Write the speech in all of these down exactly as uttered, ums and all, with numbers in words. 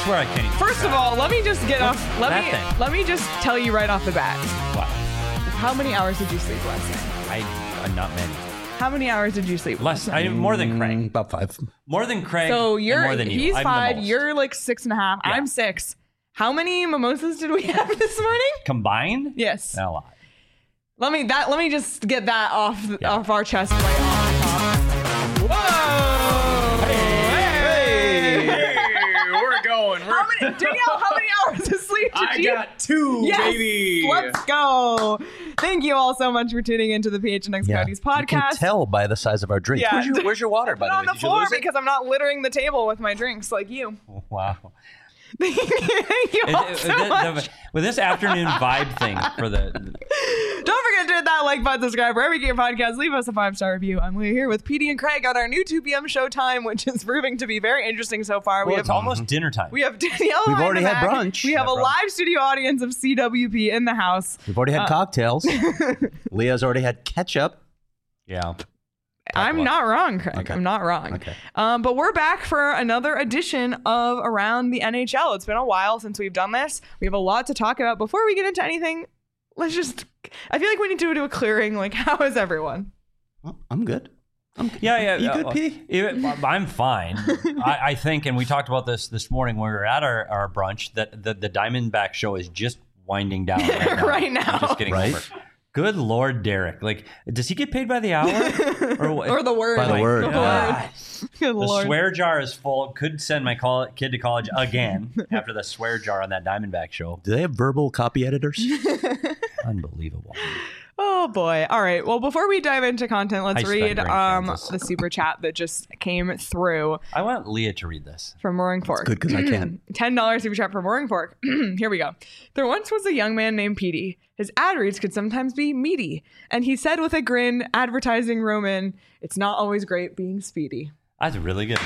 swear I can't. Even First of all, let me just get What's off. Let that me thing? let me just tell you right off the bat. What? How many hours did you sleep last night? I, uh, not many. How many hours did you sleep? Less. last night? I more than Craig. Mm, about five. More than Craig. So and you're more than you. he's I'm the five. most. You're like six and a half. Yeah. I'm six. How many mimosas did we have this morning? Combined? Yes. Not a lot. Let me that. Let me just get that off Yeah. off our chest right off the top. Whoa! Hey! Hey, we're going. We're How many, Danielle? How many hours of sleep did I you? got two, Yes, baby. let's go. Thank you all so much for tuning into the P H N X Coyotes You can podcast. tell by the size of our drink. Yeah. Where's, your, where's your water, by Put the on way? the Did you floor lose it? because I'm not littering the table with my drinks like you. Wow. Thank you Is- all is- so the- much. the- with this afternoon vibe thing for the Don't forget to hit that like button, subscribe wherever you get your podcasts. Leave us a five-star review. I'm Leah here with Petey and Craig on our new two p.m. showtime, which is proving to be very interesting so far. well, we it's have almost dinner time. we have Danielle. We've behind already the had back. brunch. We have Yeah, a brunch. live studio audience of C W P in the house. We've already had Uh, cocktails. Leah's already had ketchup. yeah. I'm about- not wrong, Craig. Okay. I'm not wrong. Okay. Um, but we're back for another edition of Around the N H L. It's been a while since we've done this. We have a lot to talk about. Before we get into anything, let's just. I feel like we need to do a clearing. Like, how is everyone? Well, I'm good. I'm Yeah, yeah. You uh, good, P? even- I'm fine. I, I think, and we talked about this this morning when we were at our, our brunch, that the, the Diamondback show is just winding down right now. Right now. I'm just getting Right? over. Good Lord, Derek. Like, does he get paid by the hour? Or, what? Or the word. By the My word. The God. word. Good The Lord. swear jar is full. Could send my col- kid to college again after the swear jar on that Diamondback show. Do they have verbal copy editors? Unbelievable. Oh boy. All right. Well, before we dive into content, let's I spent read Grand um, Kansas. the super chat that just came through I want Leah to read this. from Mooring Fork. Good, because I can. ten dollars super chat for Mooring Fork. Here we go. There once was a young man named Petey. His ad reads could sometimes be meaty. And he said with a grin, advertising Roman, it's not always great being speedy. That's really good.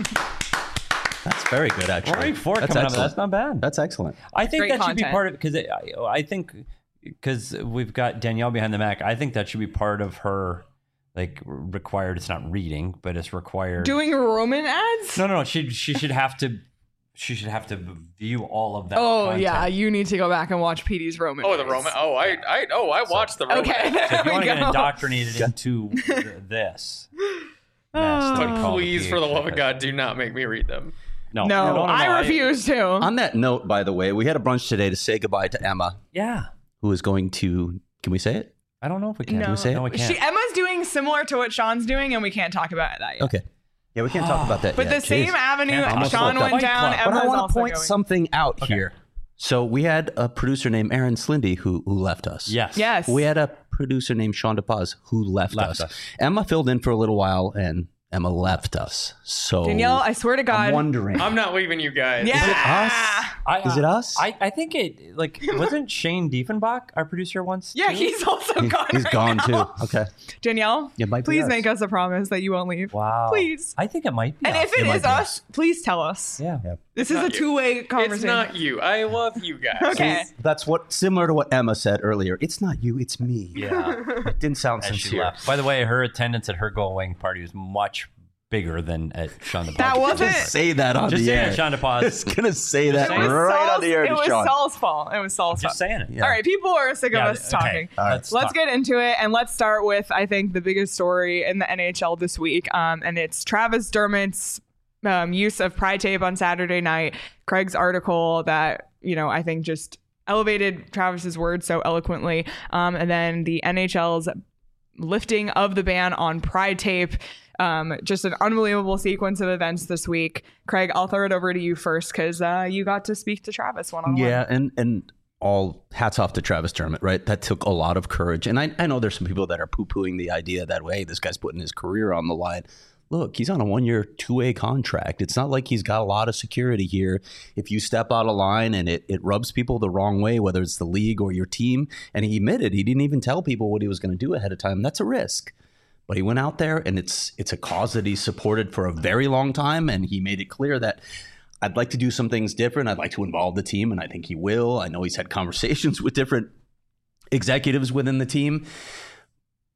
That's very good, actually. Roaring Fork That's coming up. excellent. That's not bad. That's excellent. I think Great that should be content. part of because I, I think because we've got Danielle behind the Mac. I think that should be part of her like required. It's not reading, but it's required. Doing Roman ads? no, no, no. She she should have to. She should have to view all of that. Oh, content. yeah. You need to go back and watch Petey's Roman Oh, the ads. Roman. Oh, I, I, oh, I watched the Roman. Okay. So if There you we want to get go. indoctrinated into th- this, mess that we But call the please, for the P H love of N. God, do not make me read them. no, No, no, no, I no, refuse to. On that note, by the way, we had a brunch today to say goodbye to Emma, Yeah, who is going to, can we say it? I don't know if we can. No. we say it? No, we can't. She, Emma's doing similar to what Sean's doing, and we can't talk about that yet. Okay. Yeah, we can't talk about that But yet. the same Jeez. avenue Can't Sean almost went look up. down, Fight Emma's Club. But I want also to point going. something out Okay. here. So we had a producer named Aaron Slindy who, who left us. Yes. Yes. We had a producer named Sean DePaz who left, Left us. us. Emma filled in for a little while, and Emma left us. So Danielle, I swear to God. I'm wondering. I'm not leaving you guys. yeah. Is it us? I, Is it us? I, I think it like wasn't Shane Diefenbach our producer once? Yeah, too? he's also He- gone. he's right gone now. too. Okay. Danielle, It might be please us. make us a promise that you won't leave. Wow. Please. I think it might be. And us. if it might is be us, please tell us. yeah. This is not a you. two-way It's conversation. not you. I love you guys. Okay. That's what similar to what Emma said earlier. It's not you, it's me. Yeah. It didn't sound As she sincere. left. By the way, her attendance at her going party was much bigger than at Sean DePaz. That wasn't. Just say that on Just the saying air. it, Sean I was DePaz. gonna say that saying. It was right Saul's, on the air it to was Sean. Saul's fault. It was Saul's Just fault. saying it. Yeah. All right, people are sick of Yeah, us okay. talking. All right. Let's, Let's talk. get into it, and let's start with, I think, the biggest story in the N H L this week, um, and it's Travis Dermott's um, use of Pride tape on Saturday night. Craig's article that, you know, I think just elevated Travis's words so eloquently, um, and then the N H L's lifting of the ban on Pride tape. Um, just an unbelievable sequence of events this week. Craig, I'll throw it over to you first because uh, you got to speak to Travis one on one. Yeah, and and all hats off to Travis Dermott, right? That took a lot of courage. And I, I know there's some people that are poo-pooing the idea that, hey, this guy's putting his career on the line. Look, he's on a one-year, two-way contract. It's not like he's got a lot of security here. If you step out of line and it, it rubs people the wrong way, whether it's the league or your team, and he admitted he didn't even tell people what he was going to do ahead of time, that's a risk. But he went out there, and it's it's a cause that he's supported for a very long time, and he made it clear that I'd like to do some things different. I'd like to involve the team, and I think he will. I know he's had conversations with different executives within the team.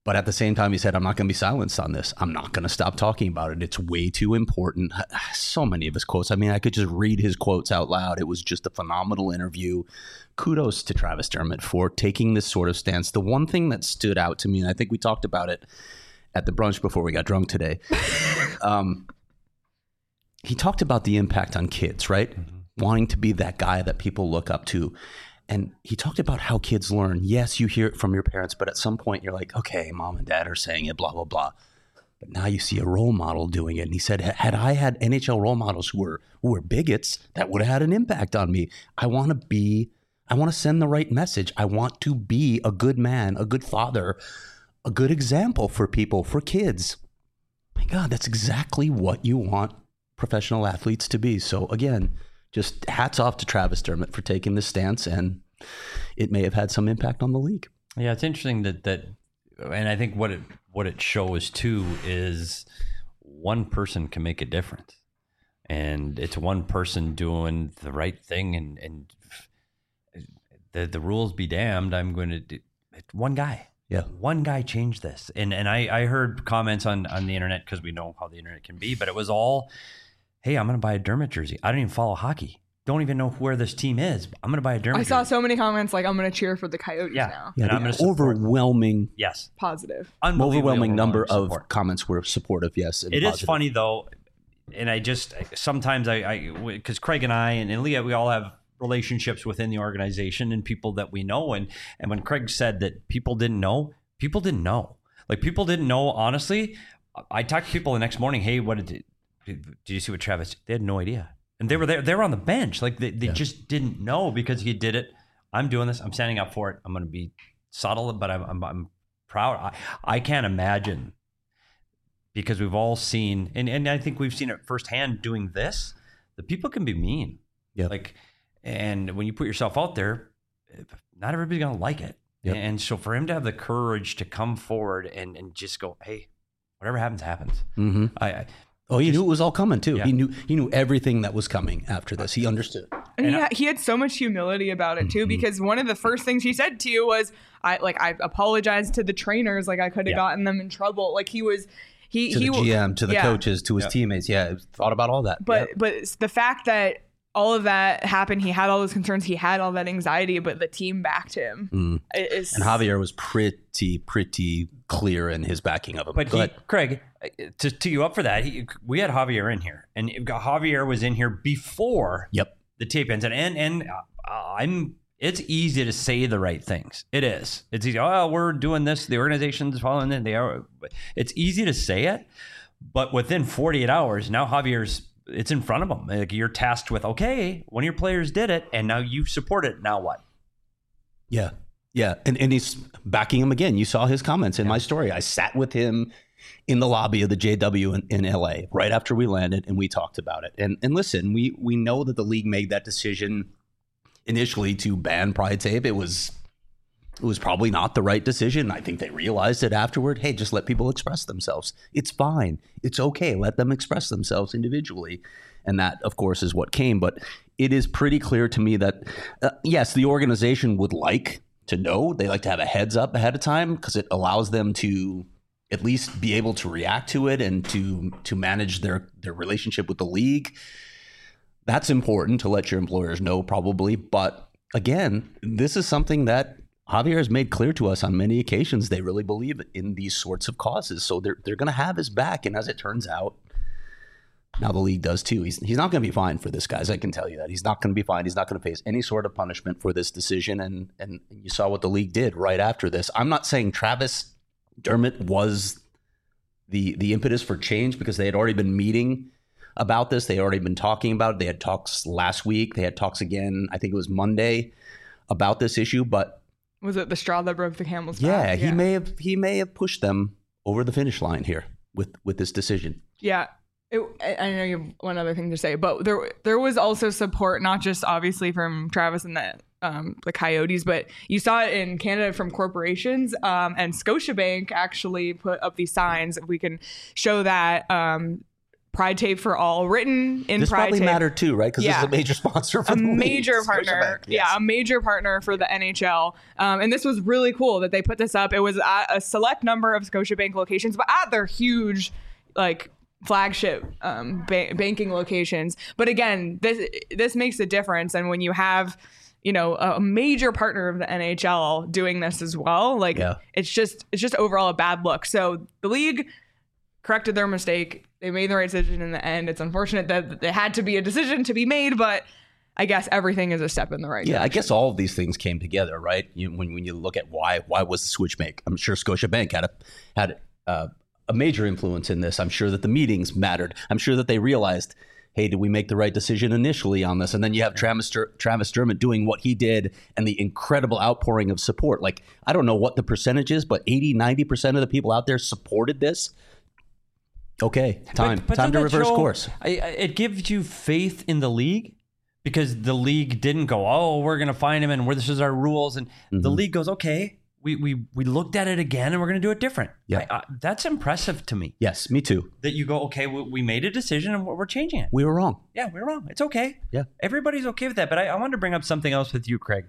But at the same time, he said, I'm not going to be silenced on this. I'm not going to stop talking about it. It's way too important. So many of his quotes. I mean, I could just read his quotes out loud. It was just a phenomenal interview. Kudos to Travis Dermott for taking this sort of stance. The one thing that stood out to me, and I think we talked about it at the brunch before we got drunk today, um, he talked about the impact on kids, right? Mm-hmm. Wanting to be that guy that people look up to. And he talked about how kids learn. Yes, you hear it from your parents, but at some point you're like, okay, mom and dad are saying it, blah, blah, blah. But now you see a role model doing it. And he said, had I had N H L role models who were who were bigots, that would have had an impact on me. I want to be, I want to send the right message. I want to be a good man, a good father, a good example for people, for kids. My God, that's exactly what you want professional athletes to be. So again, just hats off to Travis Dermott for taking this stance, and it may have had some impact on the league. Yeah, it's interesting that that, and I think what it what it shows too is one person can make a difference, and it's one person doing the right thing, and and the the rules be damned. I'm going to do it's one guy. Yeah, one guy changed this, and and I I heard comments on on the internet because we know how the internet can be, but it was all, hey, I'm going to buy a Dermott jersey. I don't even follow hockey. Don't even know where this team is. I'm going to buy a Dermott I saw jersey. so many comments like, I'm going to cheer for the Coyotes Yeah. now. yeah. And I'm The gonna support- overwhelming, Yes. Positive. Unbelievably overwhelming number of support. comments were supportive. Yes, and It is positive. funny though, and I just sometimes I, I because Craig and I and, and Leah, we all have relationships within the organization and people that we know, and and when Craig said that people didn't know, people didn't know. Like people didn't know. Honestly, I talked to people the next morning. Hey, what did it, did you see what Travis? They had no idea, and they were there. They were on the bench. Like they, they Yeah. just didn't know because he did it. I'm doing this. I'm standing up for it. I'm going to be subtle, but I'm I'm, I'm proud. I, I can't imagine. Because we've all seen, and, and I think we've seen it firsthand doing this, the people can be mean. Yeah. Like, and when you put yourself out there, not everybody's going to like it. Yep. And so for him to have the courage to come forward and, and just go, hey, whatever happens, happens. Mm-hmm. I, I Oh, he just- knew it was all coming too. Yeah. He knew he knew everything that was coming after this. He understood. And, And he, I- had, he had so much humility about it too, Mhm. because one of the first things he said to you was, "I like I apologized to the trainers, like I could have Yeah. gotten them in trouble." Like he was, he To he the G M, to the yeah. coaches, to his Yeah. teammates. Yeah, thought about all that. But Yeah. but it's the fact that all of that happened, he had all those concerns, he had all that anxiety, but the team backed him. Mm. It is, And Javier was pretty, pretty clear in his backing of him. But Go he, ahead. Craig, to tee you up for that, he, we had Javier in here, and Javier was in here before Yep. the tape ends, and and, and uh, I'm. It's easy to say the right things. It is. It's easy. Oh, we're doing this. The organization's following it. They are. It's easy to say it, but within forty-eight hours, now Javier's. It's in front of him. Like you're tasked with, okay, one of your players did it, and now you support it. Now what? Yeah. Yeah. And, and he's backing him again. You saw his comments in my story. I sat with him in the lobby of the J W in, in L A right after we landed, and we talked about it. And and listen, we we know that the league made that decision initially to ban Pride Tape. It was it was probably not the right decision. I think they realized it afterward. Hey, just let people express themselves. It's fine. It's okay. Let them express themselves individually. And that, of course, is what came. But it is pretty clear to me that, uh, yes, the organization would like to know. They like to have a heads up ahead of time because it allows them to at least be able to react to it and to to manage their, their relationship with the league. That's important to let your employers know, probably. But again, this is something that Javier has made clear to us on many occasions. They really believe in these sorts of causes. So they're they're going to have his back. And as it turns out, now the league does too. He's he's not going to be fined for this, guys. I can tell you that. He's not going to be fined. He's not going to face any sort of punishment for this decision. And and you saw what the league did right after this. I'm not saying Travis Dermott was the the impetus for change, because they had already been meeting about this. They had already been talking about it. They had talks last week. They had talks again, I think it was Monday, about this issue. But was it the straw that broke the camel's yeah, back? he may have he may have pushed them over the finish line here with with this decision. Yeah. It, I I know you have one other thing to say, but there there was also support, not just obviously from Travis and the um, the Coyotes, but you saw it in Canada from corporations. Um, and Scotiabank actually put up these signs. We can show that. Um, Pride Tape for All written in This Pride probably Tape. mattered too, right? Because Yeah. this is a major sponsor for a the league. major partner. Scotiabank, yes. Yeah, a major partner for the N H L. Um, and this was really cool that they put this up. It was at a select number of Scotiabank locations, but at their huge, like, flagship um, ba- banking locations. But again, this this makes a difference. And when you have, you know, a major partner of the N H L doing this as well, like, Yeah. it's just it's just overall a bad look. So the league corrected their mistake. They made the right decision in the end. It's unfortunate that there had to be a decision to be made, but I guess everything is a step in the right Yeah, I direction. guess all of these things came together, right? You, when when you look at why why was the switch make, I'm sure Scotiabank had a had uh, a major influence in this. I'm sure that the meetings mattered. I'm sure that they realized, hey, did we make the right decision initially on this? And then you have Travis Dur- Travis Dermott doing what he did and the incredible outpouring of support. Like, I don't know what the percentage is, but eighty, ninety percent of the people out there supported this. Okay, time But- but time doesn't to that reverse show- course. I, I- it gives you faith in the league because the league didn't go, oh, we're going to find him and we're, this is our rules. And the Mm-hmm. league goes, okay, we, we, we looked at it again and we're going to do it different. Yeah. I, I, that's impressive to me Yes, me too. that you go, okay, we, we made a decision and we're, we're changing it. We were wrong. Yeah, we're wrong. It's okay. Yeah. Everybody's okay with that. But I, I wanted to bring up something else with you, Craig.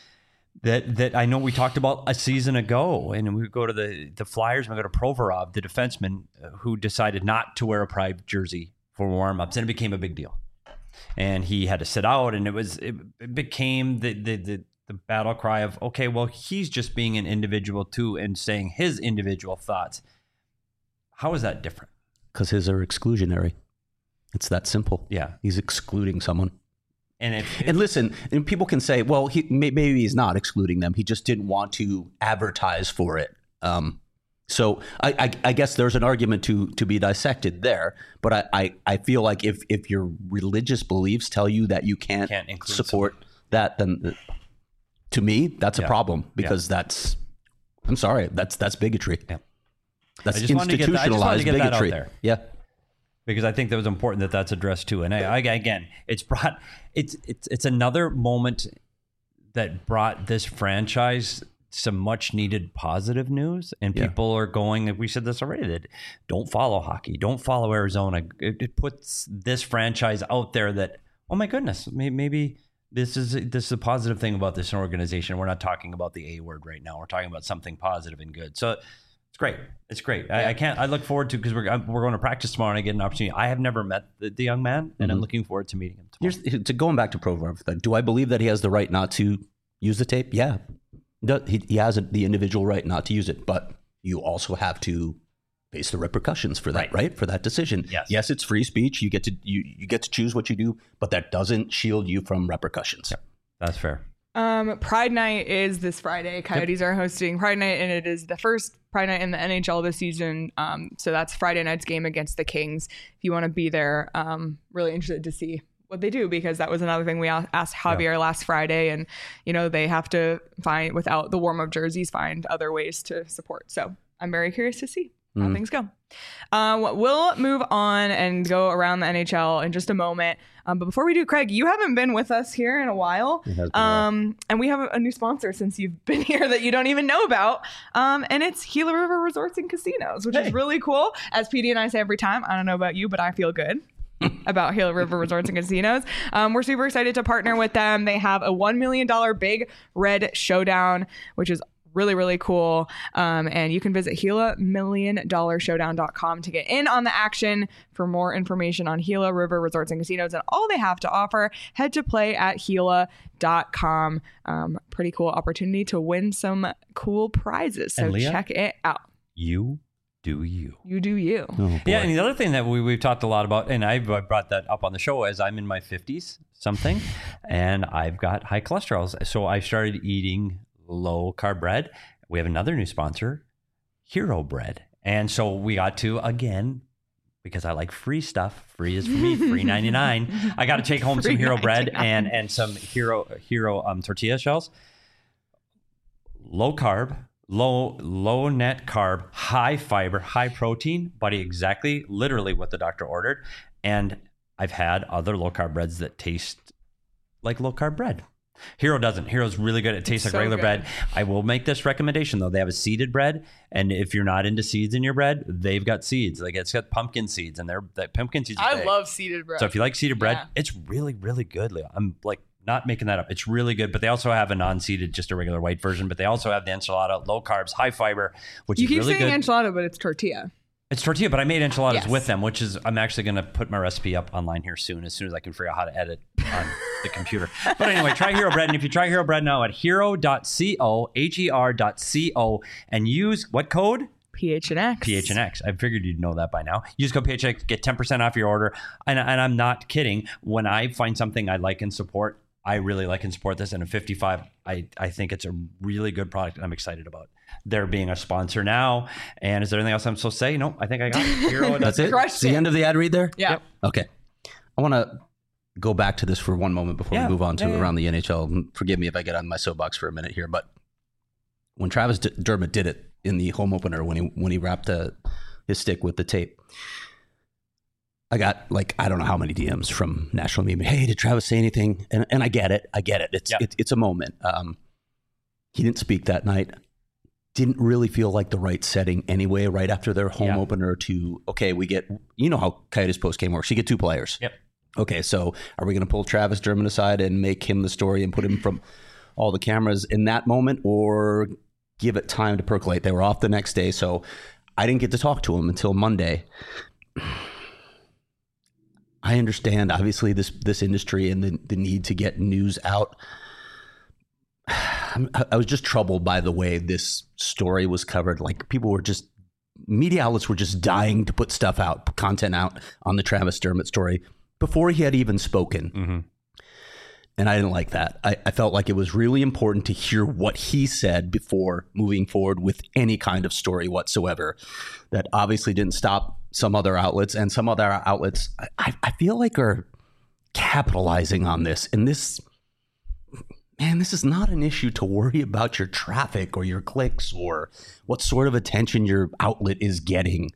That that I know we talked about a season ago, and we go to the the Flyers, and we go to Provorov, the defenseman, uh, who decided not to wear a Pride jersey for warm-ups, and it became a big deal. And he had to sit out, and it was it, it became the, the the the battle cry of, okay, well, he's just being an individual too, and saying his individual thoughts. How is that different? Because his are exclusionary. It's that simple. Yeah, He's excluding someone. and if, And listen, and people can say, well, he may, maybe he's not excluding them. He just didn't want to advertise for it. Um, so I, I, I guess there's an argument to to be dissected there. But I, I, I feel like if if your religious beliefs tell you that you can't, Can't include support that, then uh, to me, that's a Yeah. problem because that's, I'm sorry, that's that's bigotry. Yeah. That's I just wanted to get that- I just wanted to institutionalized get that out bigotry. there. Yeah. because I think that was important that that's addressed too. And I, I, again, it's brought it's it's it's another moment that brought this franchise some much needed positive news, and Yeah. people are going. We said this already, that don't follow hockey, don't follow Arizona. It, it puts this franchise out there that, oh my goodness, maybe, maybe this is this is a positive thing about this organization. We're not talking about the A word right now. We're talking about something positive and good. So it's great. It's great. I, I can't. I look forward to, because we're I'm- we're going to practice tomorrow, and I get an opportunity. I have never met the, the young man, and I'm Mhm. looking forward to meeting him tomorrow. Here's to going back to Provorov. Do I believe that he has the right not to use the tape? Yeah, he does- he, he has a, the individual right not to use it, but you also have to face the repercussions for that, Right. right? For that decision. Yes. Yes, it's free speech. You get to you you get to choose what you do, but that doesn't shield you from repercussions. That's fair. Um, Pride Night is this Friday. Coyotes are hosting Pride Night, and it is the first Pride Night in the N H L this season. Um, so that's Friday night's game against the Kings. If you want to be there, um, really interested to see what they do, because that was another thing we a- asked Javier last Friday, and you know they have to find, without the warm up jerseys, find other ways to support. So I'm very curious to see how Mhm. things go. Uh, we'll move on and go around the N H L in just a moment. Um, but before we do, Craig, you haven't been with us here in a while. It has been a while. Um, and we have a, a new sponsor since you've been here that you don't even know about. Um, and it's Gila River Resorts and Casinos, which Hey. is really cool. As P D and I say every time, I don't know about you, but I feel good about Gila River Resorts and Casinos. Um, we're super excited to partner with them. They have a one million dollars Big Red Showdown, which is really, really cool. Um, and you can visit Gila Million Dollar Showdown dot com to get in on the action. For more information on Gila River Resorts and Casinos and all they have to offer, head to play at Gila dot com. Um, pretty cool opportunity to win some cool prizes. So And Leah? check it out. You do you. You do you. Oh, boy. Yeah, and the other thing that we, we've talked a lot about, and I've I brought that up on the show, as I'm in my fifties something, and I've got high cholesterol. So I started eating low carb bread. We have another new sponsor, Hero Bread. And so we got to, again, because I like free stuff, free is for me, free ninety-nine. I got to take home some Free Hero Bread ninety-nine. and, and some Hero Hero um, tortilla shells. Low carb, low low net carb, high fiber, high protein, buddy, exactly, literally what the doctor ordered. And I've had other low carb breads that taste like low carb bread. Hero doesn't. Hero's really good. It tastes like so regular good. bread. I will make this recommendation though. They have a seeded bread, and if you're not into seeds in your bread, they've got seeds. Like it's got pumpkin seeds, and they're that pumpkin seeds. are I big. love seeded bread. So if you like seeded bread, Yeah. it's really, really good, Leo. I'm like not making that up. It's really good. But they also have a non-seeded, just a regular white version. But they also have the enchilada, low carbs, high fiber, which you is keep really saying good. enchilada, but it's tortilla. It's tortilla, but I made enchiladas Yes. with them, which is I'm actually going to put my recipe up online here soon, as soon as I can figure out how to edit on the computer. But anyway, try Hero Bread. And if you try Hero Bread now at hero dot co, H E R dot C O, and use what code? P H N X. P H N X. I figured you'd know that by now. Use code P H N X, get ten percent off your order. And, and I'm not kidding. When I find something I like and support, I really like and support this. And at fifty-five, I, I think it's a really good product, and I'm excited about their being a sponsor now. And is there anything else I'm supposed to say? No, I think I got it. Hero, That's it? Crushed It's the it. end of the ad read there? Yeah. Yep. Okay. I want to go back to this for one moment before Yeah. we move on to Yeah, yeah. around the N H L. Forgive me if I get on my soapbox for a minute here, but when Travis D- Dermott did it in the home opener, when he when he wrapped uh, his stick with the tape, I got like I don't know how many D Ms from national media. Hey, did Travis say anything? And and I get it, I get it. It's Yep. it, it's a moment. Um, he didn't speak that night. Didn't really feel like the right setting anyway. Right after their home Yeah. opener, to okay, we get you know how Coyotes post game works. You get two players. Yep. Okay, so are we going to pull Travis Dermott aside and make him the story and put him from all the cameras in that moment, or give it time to percolate? They were off the next day, so I didn't get to talk to him until Monday. I understand, obviously, this this industry and the, the need to get news out. I'm- I was just troubled by the way this story was covered. Like people were just, media outlets were just dying to put stuff out, content out on the Travis Dermott story before he had even spoken. Mm-hmm. And I didn't like that. I, I felt like it was really important to hear what he said before moving forward with any kind of story whatsoever. That obviously didn't stop some other outlets, and some other outlets I, I feel like are capitalizing on this. And this, man, this is not an issue to worry about your traffic or your clicks or what sort of attention your outlet is getting.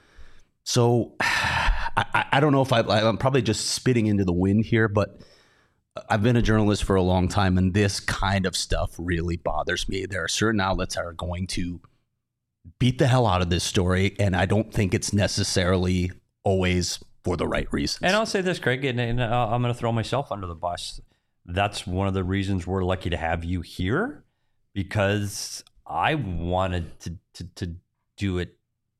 So I, I don't know if I, I'm probably just spitting into the wind here, but I've been a journalist for a long time, and this kind of stuff really bothers me. There are certain outlets that are going to beat the hell out of this story, and I don't think it's necessarily always for the right reasons. And I'll say this, Craig, and, and uh, I'm going to throw myself under the bus. That's one of the reasons we're lucky to have you here, because I wanted to to, to do it.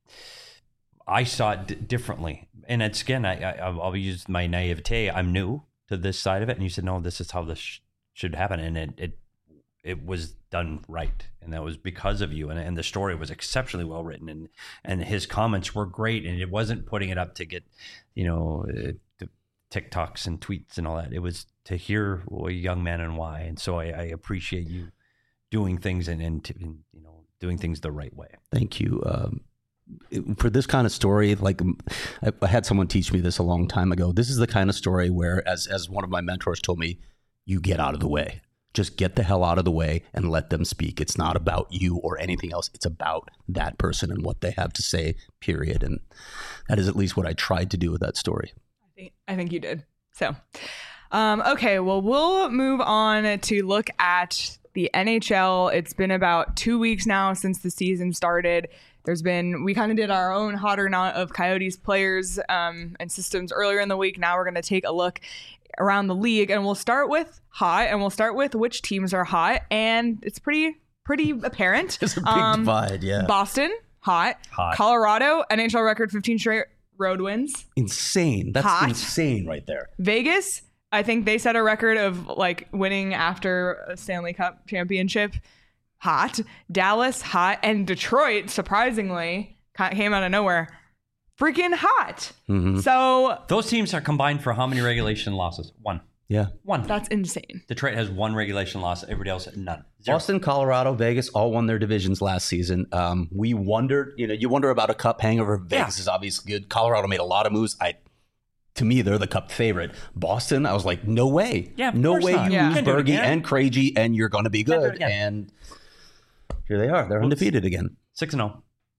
I saw it d- differently, and it's again, I, I I'll use my naivete. I'm new to this side of it, and you said, no, this is how this sh- should happen, and it it it was done right, and that was because of you, and and the story was exceptionally well written, and and his comments were great, and it wasn't putting it up to get, you know, uh, to TikToks and tweets and all that. It was to hear a young man and why, and so I, I appreciate you doing things and and, to, and you know doing things the right way. Thank you. Um, it- for this kind of story, like um, I, I had someone teach me this a long time ago. This is the kind of story where, as as one of my mentors told me, you get out of the way. Just get the hell out of the way and let them speak. It's not about you or anything else. It's about that person and what they have to say, period. And that is at least what I tried to do with that story. I think, I think you did. So, um, okay, well, we'll move on to look at the N H L. It's been about two weeks now since the season started. There's been, we kind of did our own hot or not of Coyotes players um, and systems earlier in the week. Now we're going to take a look around the league, and we'll start with hot, and we'll start with which teams are hot. And it's pretty, pretty apparent. It's a big Um, divide, yeah. Boston, hot. Hot. Colorado, N H L record fifteen straight road wins. Insane. That's Hot. insane right there. Vegas, I think they set a record of like winning after a Stanley Cup championship. Hot. Dallas, hot. And Detroit, surprisingly, ca- came out of nowhere. Freaking hot. Mhm. So Those teams are combined for how many regulation losses? One. Yeah. One. that's insane. Detroit has one regulation loss. Everybody else, none. Zero. Boston, Colorado, Vegas all won their divisions last season. Um, we wondered, you know, you wonder about a cup hangover. Vegas Yeah. is obviously good. Colorado made a lot of moves. I, to me, they're the cup favorite. Boston, I was like, no way. Yeah, of no course way not. you Yeah. lose Can't do it Bergie again. and Krejci and you're going to be Can't do it good. again. And here they are. They're undefeated again. Six and zero.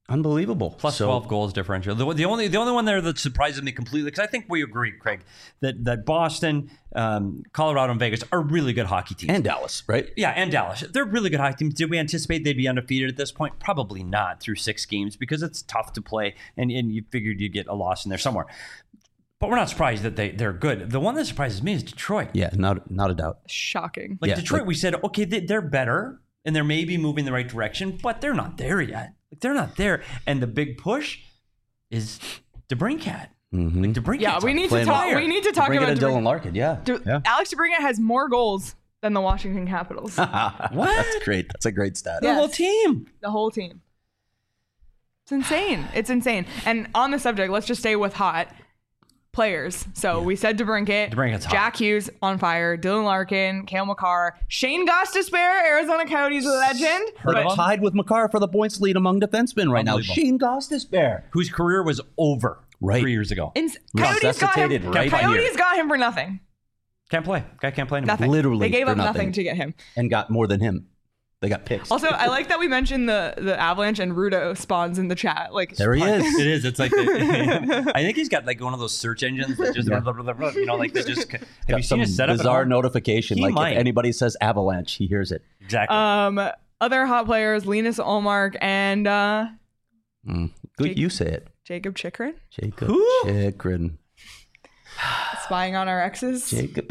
Unbelievable. Plus So- twelve goals differential. The, the only the only one there that surprises me completely, because I think we agree, Craig, that that Boston, um, Colorado, and Vegas are really good hockey teams. And Dallas, right? Yeah, and Dallas. They're really good hockey teams. Did we anticipate they'd be undefeated at this point? Probably not through six games because it's tough to play, and, and you figured you'd get a loss in there somewhere. But we're not surprised that they, they're good. The one that surprises me is Detroit. Yeah, not not a doubt. Shocking. Like Yeah, Detroit, like- we said, okay, they, they're better, and they're maybe moving the right direction, but they're not there yet. Like they're not there. And the big push is DeBrincat. Mm-hmm. Like DeBrincat. Yeah, we need to Playing talk. fire. We need to talk Bring about it to DeBrincat. Dylan Larkin. Yeah. De- yeah. Alex DeBrincat has more goals than the Washington Capitals. What? That's great. That's a great stat. The Yeah. whole team. The whole team. It's insane. It's insane. And on the subject, let's just stay with hot players. So we said DeBrincat, DeBrincat's hot. Jack Hughes on fire, Dylan Larkin, Cale Makar, Shane Gostisbehere, Arizona Coyotes legend. Heard But- of him? Tied with Makar for the points lead among defensemen right now. Unbelievable. Shane Gostisbehere. Whose career was over Right. three years ago. Ins- Coyotes got him. Resuscitated right Coyotes here. got him for nothing. Can't play. Guy can't play anymore. Nothing. Literally They gave for up nothing. nothing. to get him. And got more than him. They got picks. Also, I like that we mentioned the the Avalanche and Rudo spawns in the chat. Like there he is. It is. It's like the, I think he's got like one of those search engines that just blah, blah, blah, blah, you know like they just. Have Got you some seen his setup? at bizarre home? notification. He Like might. if anybody says Avalanche, he hears it. Exactly. Um, other hot players: Linus Ullmark and uh, Mm. Good, Jake- you say it. Jacob Chikrin, Jacob Who? Chikrin. spying on our exes. Jacob.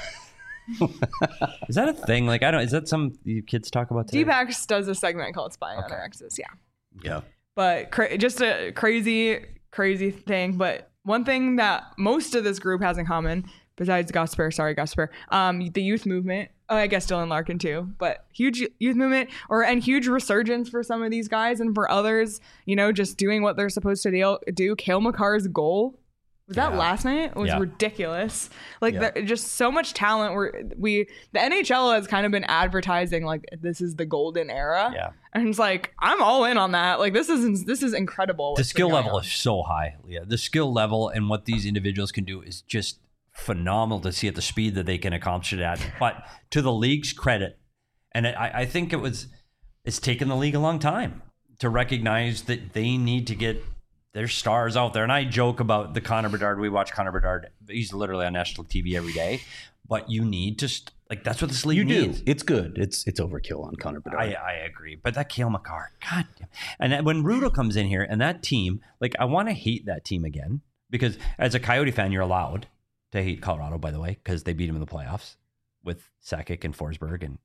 Is that a thing? Like I don't. Is that some you kids talk about today? D-Backs does a segment called "Spying on Our Exes." Yeah, yeah. but cra- just a crazy, crazy thing. But one thing that most of this group has in common, besides Gosper, sorry Gosper, um, the youth movement. Oh, I guess Dylan Larkin too, but huge youth movement or and huge resurgence for some of these guys, and for others, you know, just doing what they're supposed to do. do. Cale Makar's goal. Was that Yeah. last night? It was Yeah. ridiculous. Like Yeah. there, just so much talent. Where we the N H L has kind of been advertising like this is the golden era. Yeah. And it's like I'm all in on that. Like this is this is incredible. The what's skill been going level on. is so high, Leah. The skill level and what these individuals can do is just phenomenal to see at the speed that they can accomplish it at. But to the league's credit, and I, I think it was, it's taken the league a long time to recognize that they need to get their stars out there. And I joke about the Connor Bedard. We watch Connor Bedard. He's literally on national T V every day. But you need to, st- like, that's what this league You do. needs. It's good. It's it's overkill on Connor Bedard. I, I agree, but that Cale Makar, God damn. And then when Rudo comes in here and that team, like I want to hate that team again because as a Coyote fan, you're allowed to hate Colorado, by the way, because they beat him in the playoffs with Sakic and Forsberg and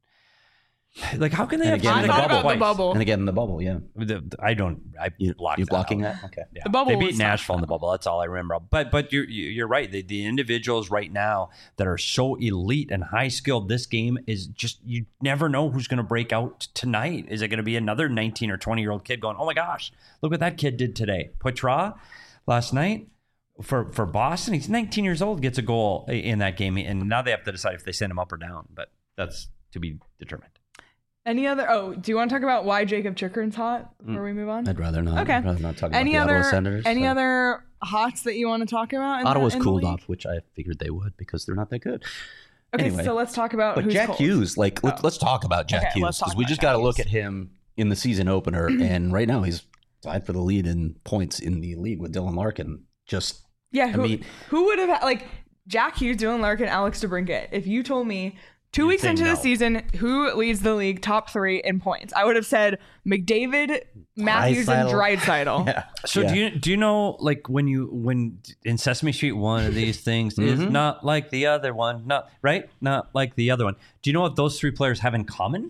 like how can they And have again, I the thought bubble. about the bubble. and again in the bubble, yeah. The- I don't. I You, blocked you that blocking out. that? Okay. Yeah. The bubble They beat was Nashville in the tough. bubble. That's all I remember. But but you're you're right. The, the individuals right now that are so elite and high skilled, this game is just you never know who's going to break out tonight. Is it going to be another nineteen or twenty year old kid going, oh my gosh, look what that kid did today? Poitras last night for for Boston. He's nineteen years old, gets a goal in that game, and now they have to decide if they send him up or down. But that's to be determined. Any other? Oh, do you want to talk about why Jacob Chikrin's hot before we move on? I'd rather not. Okay. I'd rather not talk Any about the other Ottawa Senators. any so. other hots that you want to talk about? in the- Ottawa's in the cooled league? off, which I figured they would because they're not that good. Okay, Anyway. so let's talk about But who's Jack cold. Hughes, like let's, Oh. let's talk about Jack Okay, Hughes let's talk because we about just Jack got to look Hughes. at him in the season opener, and right now he's tied for the lead in points in the league with Dylan Larkin. Just Yeah, who, mean- who would have had, like Jack Hughes, Dylan Larkin, Alex DeBrincat? If you told me two You'd weeks say into no. the season who leads the league top three in points, I would have said McDavid, Matthews, and Draisaitl. yeah. So Yeah. do you do you know like when you when in Sesame Street one of these things is Mhm. not like the other one, not right, not like the other one. Do you know what those three players have in common?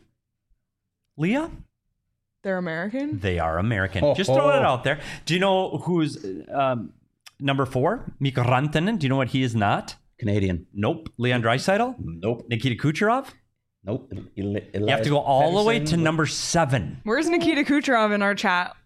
Leah, They're American. they are American. Ho, Just ho. throw it out there. Do you know who's um, number four? Mikko Rantanen. Do you know what he is not? Canadian? Nope. Leon Draisaitl. Nope. Nikita Kucherov. Nope. You have to go all the way to number seven. Where's Nikita Kucherov in our chat?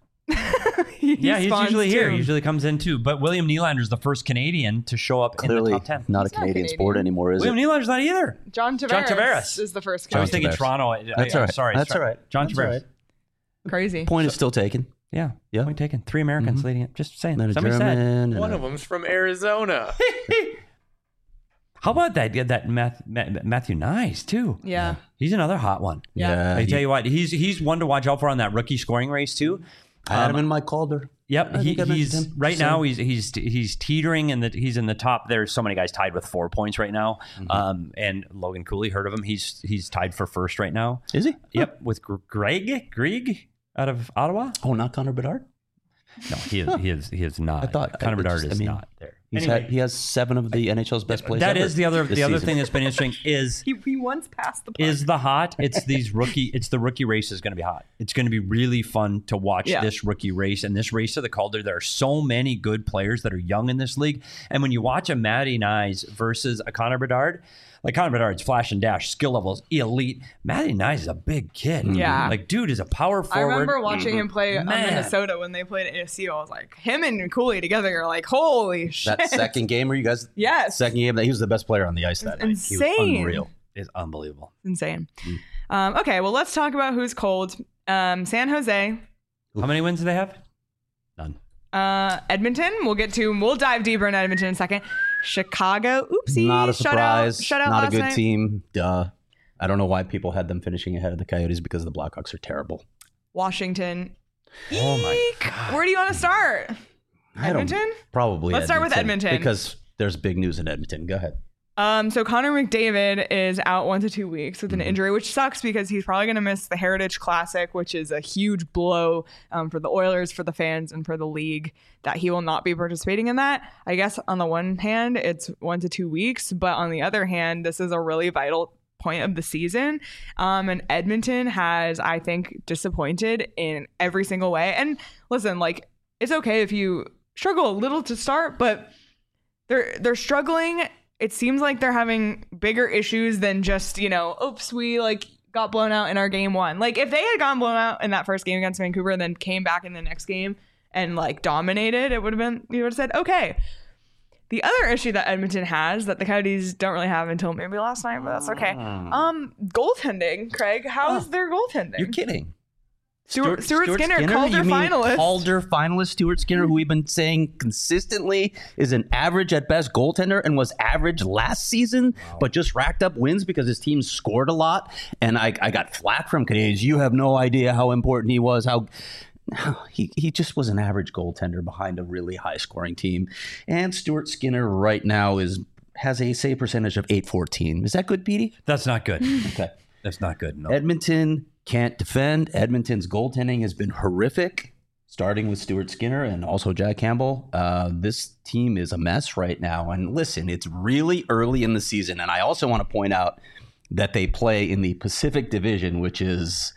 He Yeah, he's spawns usually here. too. Usually comes in too. But William Nylander is the first Canadian to show up Clearly in the top ten. not a He's not Canadian, Canadian. sport anymore, is William it? Nylander's not either. John Tavares, John Tavares. is the first I was John Canadian. thinking Tavares. Toronto. I, That's I, all I'm right. sorry. That's sorry. all right. John That's all Tavares. right. Crazy. Point is still taken. Yeah. Yeah. Point taken. Three Americans Mhm. leading it. Just saying. Then a Somebody German. said. and One a- of them's from Arizona. How about that? Yeah, that Math, Ma- Matthew Nyes too. Yeah. He's another hot one. Yeah. Yeah. I he- tell you what, he's he's one to watch out for on that rookie scoring race too. I had him in my Calder. Yep, I he, think I he's mentioned him. right So- now. He's he's he's teetering, and he's in the top. There's so many guys tied with four points right now. Mm-hmm. Um, and Logan Cooley, heard of him? He's he's tied for first right now. Is he? Yep, with Gr- Greg Greg out of Ottawa. Oh, not Connor Bedard? No, he is he is he is not. I thought- Connor I Bedard just- I is mean, not there. He's Anyway, had, he has seven of the N H L's best plays that ever is the other this the other season. thing that's been interesting is He, he once passed the puck. is the hot. It's these rookie. It's the rookie race is going to be hot. It's going to be really fun to watch Yeah. this rookie race and this race to the Calder. There are so many good players that are young in this league, and when you watch a Matty Nyes versus a Connor Bedard, like Connor Bedard's flash and dash skill levels elite. Matty Nyes is a big kid. Yeah. like dude is a power I forward. remember watching him play on Man. Minnesota when they played at A S U. I was like, him and Cooley together, you're like, holy shit. That second game where you guys, Yes. second game, that he was the best player on the ice that night. He was insane. unreal. Is unbelievable. Insane. Um, okay, well, let's talk about who's cold. Um, San Jose, How many wins do they have? None. uh, Edmonton. We'll get to, we'll dive deeper into Edmonton in a second. Chicago, oopsie. Not a shutout- surprise. Shutout Not a last good night. team. Duh. I don't know why people had them finishing ahead of the Coyotes because the Blackhawks are terrible. Washington. Oh my Eek. God. Where do you want to start? I don't- Edmonton? Probably Let's start with Edmonton. because there's big news in Edmonton. Go ahead. Um, so Connor McDavid is out one to two weeks with an Mm-hmm. injury, which sucks because he's probably going to miss the Heritage Classic, which is a huge blow um, for the Oilers, for the fans, and for the league that he will not be participating in that. I guess on the one hand, it's one to two weeks, but on the other hand, this is a really vital point of the season. Um, and Edmonton has, I think, disappointed in every single way. And listen, like, it's okay if you struggle a little to start, but they're they're struggling. It seems like they're having bigger issues than just, you know, oops, we like got blown out in our game one. Like if they had gotten blown out in that first game against Vancouver and then came back in the next game and like dominated, it would have been, you would have said, okay. The other issue that Edmonton has that the Coyotes don't really have until maybe last night, but that's okay. Um, goaltending, Craig. How's their goaltending? You're kidding. Stuart, Stuart, Skinner, Calder You mean finalist. Calder finalist Stuart Skinner, who we've been saying consistently is an average at best goaltender and was average last season, but just racked up wins because his team scored a lot. And I, I got flack from Canadians. You have no idea how important he was, how he, he just was an average goaltender behind a really high scoring team. And Stuart Skinner right now is has a save percentage of eight fourteen. Is that good, Petey? That's not good. Okay. That's not good. No. Edmonton can't defend. Edmonton's goaltending has been horrific, starting with Stuart Skinner and also Jack Campbell. Uh, this team is a mess right now. And listen, it's really early in the season. And I also want to point out that they play in the Pacific Division, which is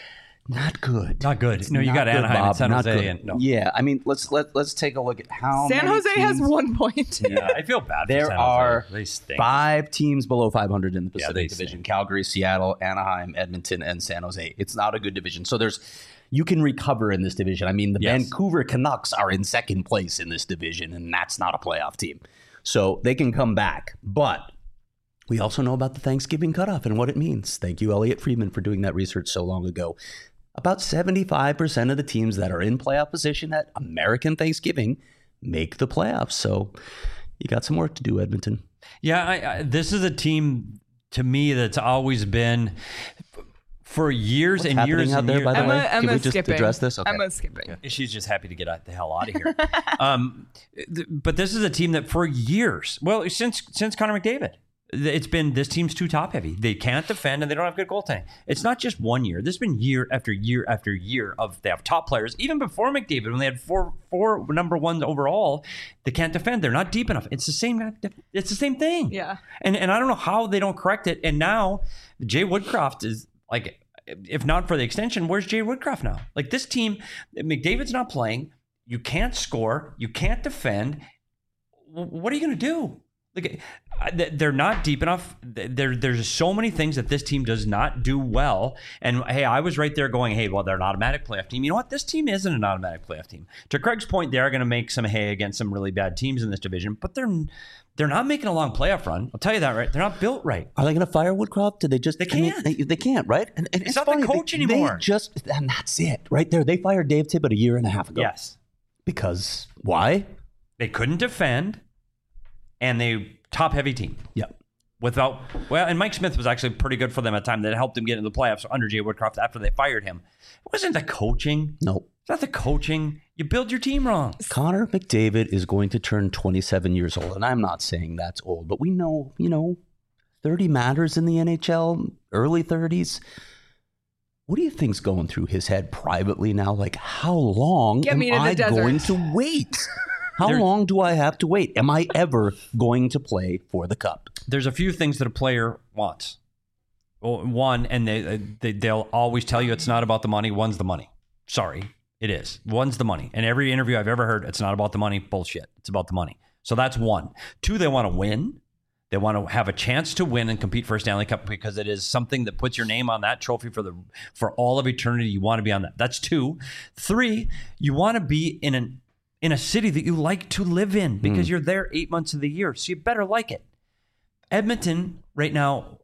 not good. Not good. It's No, you not got good, Anaheim and Bob. San Not Jose good. and- no. Yeah, I mean, let's let let's take a look at how San many Jose has teams- one point. Yeah, I feel bad. There for San Jose. are They stink. five teams below five hundred in the Yeah, Pacific they Division: stink. Calgary, Seattle, Anaheim, Edmonton, and San Jose. It's not a good division. So there's you can recover in this division. I mean, the Yes. Vancouver Canucks are in second place in this division, and that's not a playoff team. So they can come back. But we also know about the Thanksgiving cutoff and what it means. Thank you, Elliot Friedman, for doing that research so long ago. About seventy-five percent of the teams that are in playoff position at American Thanksgiving make the playoffs. So you got some work to do, Edmonton. Yeah, I, I, this is a team to me that's always been for years What's and happening years out and there, years. by the Emma, way? Can Emma we just skipping. address this? Okay. Emma skipping. She's just happy to get out, the hell out of here. um, th- but this is a team that for years, well, since since Connor McDavid, th- it's been this team's too top heavy. They can't defend and they don't have good goaltending. It's not just one year. This has been year after year after year of they have top players. Even before McDavid, when they had four four number ones overall, they can't defend. They're not deep enough. It's the same. It's the same thing. Yeah. And and I don't know how they don't correct it. And now Jay Woodcroft is like, if not for the extension, where's Jay Woodcroft now? Like this team, McDavid's not playing. You can't score. You can't defend. W- What are you going to do? Like uh, th- they're not deep enough. Th- There, there's so many things that this team does not do well. And hey, I was right there going, hey, well, they're an automatic playoff team. You know what? This team isn't an automatic playoff team. To Craig's point, they are going to make some hay against some really bad teams in this division, but they're they're not making a long playoff run. I'll tell you that, right? They're not built right. Are they going to fire Woodcroft? Did they just? They I mean, can't. they, they can't, right? And, and It's not the funny, coach they, anymore. They just, and that's it, right there. They fired Dave Tippett a year and a half ago. Yes. Because why? They couldn't defend, and they top heavy team. Yep. without well, and Mike Smith was actually pretty good for them at the time. That helped them get into the playoffs under Jay Woodcroft after they fired him. It wasn't the coaching. Nope. It's not the coaching. You build your team wrong. Connor McDavid is going to turn twenty-seven years old, and I'm not saying that's old, but we know, you know, thirty matters in the N H L, early thirties. What do you think's going through his head privately now? Like, how long Get am me to the I desert. going to wait? How There- long do I have to wait? Am I ever going to play for the Cup? There's a few things that a player wants. Well, one, and they, they they'll always tell you it's not about the money. One's the money. Sorry, it is. One's the money. And every interview I've ever heard, it's not about the money. Bullshit. It's about the money. So that's one. Two, they want to win. They want to have a chance to win and compete for a Stanley Cup because it is something that puts your name on that trophy for the for all of eternity. You want to be on that. That's two. Three, you want to be in an in a city that you like to live in because you're there eight months of the year. So you better like it. Edmonton right now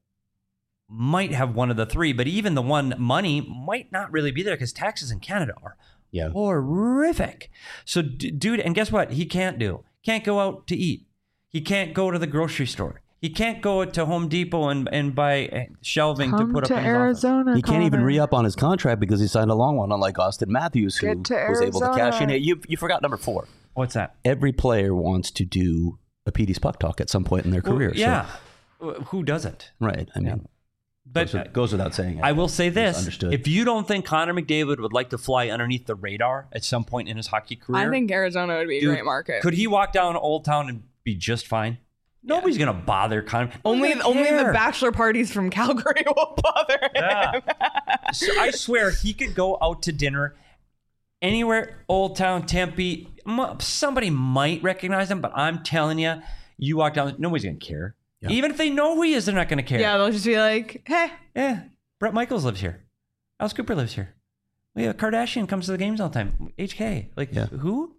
might have one of the three, but even the one money might not really be there because taxes in Canada are Yeah. horrific. So, d- dude, and guess what? He can't do. Can't go out to eat. He can't go to the grocery store. He can't go to Home Depot and, and buy shelving Come to put to up in his office. Arizona. He can't even Connor. re-up on his contract because he signed a long one, unlike Austin Matthews, who Get to was able to cash in. Arizona. You, you forgot number four. What's that? Every player wants to do a P D's Puck Talk at some point in their career. Well, yeah. Who doesn't? So, right. I mean, But goes, with- goes without saying. I will say It's this. understood. If you don't think Connor McDavid would like to fly underneath the radar at some point in his hockey career, I think Arizona would be a dude, great market. could he walk down Old Town and be just fine? Nobody's going to bother Connor. only Nobody's gonna only the care. bachelor parties from Calgary will bother him. Yeah. So I swear he could go out to dinner anywhere, Old Town, Tempe. M- Somebody might recognize him, but I'm telling you, you walk down, nobody's going to care. Yeah. Even if they know who he is, they're not going to care. Yeah, they'll just be like, hey, Yeah. Brett Michaels lives here. Alice Cooper lives here. We have Kardashian comes to the games all the time. H K. Like, Yeah. who?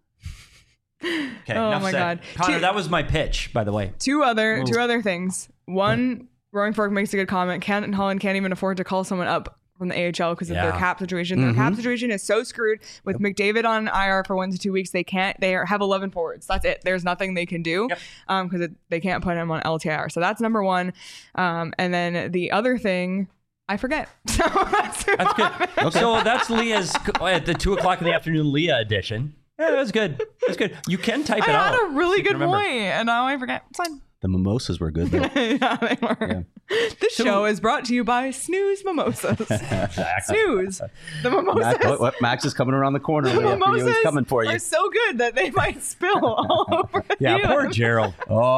Okay, Oh enough my said. God. Connor, Two- that was my pitch, by the way. two other Ooh. two other things. One, Roaring Fork makes a good comment. Canton Holland can't even afford to call someone up from the A H L because of their Yeah. cap situation. Their cap situation is so screwed. With McDavid on I R for one to two weeks, they can't. They are, have eleven forwards. That's it. There's nothing they can do Yep. um because they can't put him on L T I R. So that's number one. Um, and then the other thing, I forget. So that's, That's good. So that's Leah's at the two o'clock in the afternoon Leah edition. Yeah, that's good. That's good. You can type I it out. had a really so you good can remember. point, and now I forget. It's fine. The mimosas were good, though. Yeah, they were. This So- show is brought to you by Snooze Mimosas. Exactly. Snooze. The mimosas. Max, what, what, Max is coming around the corner. the Leah, for you. mimosas He's coming for you. are so good that they might spill all over the Yeah, poor field. Gerald.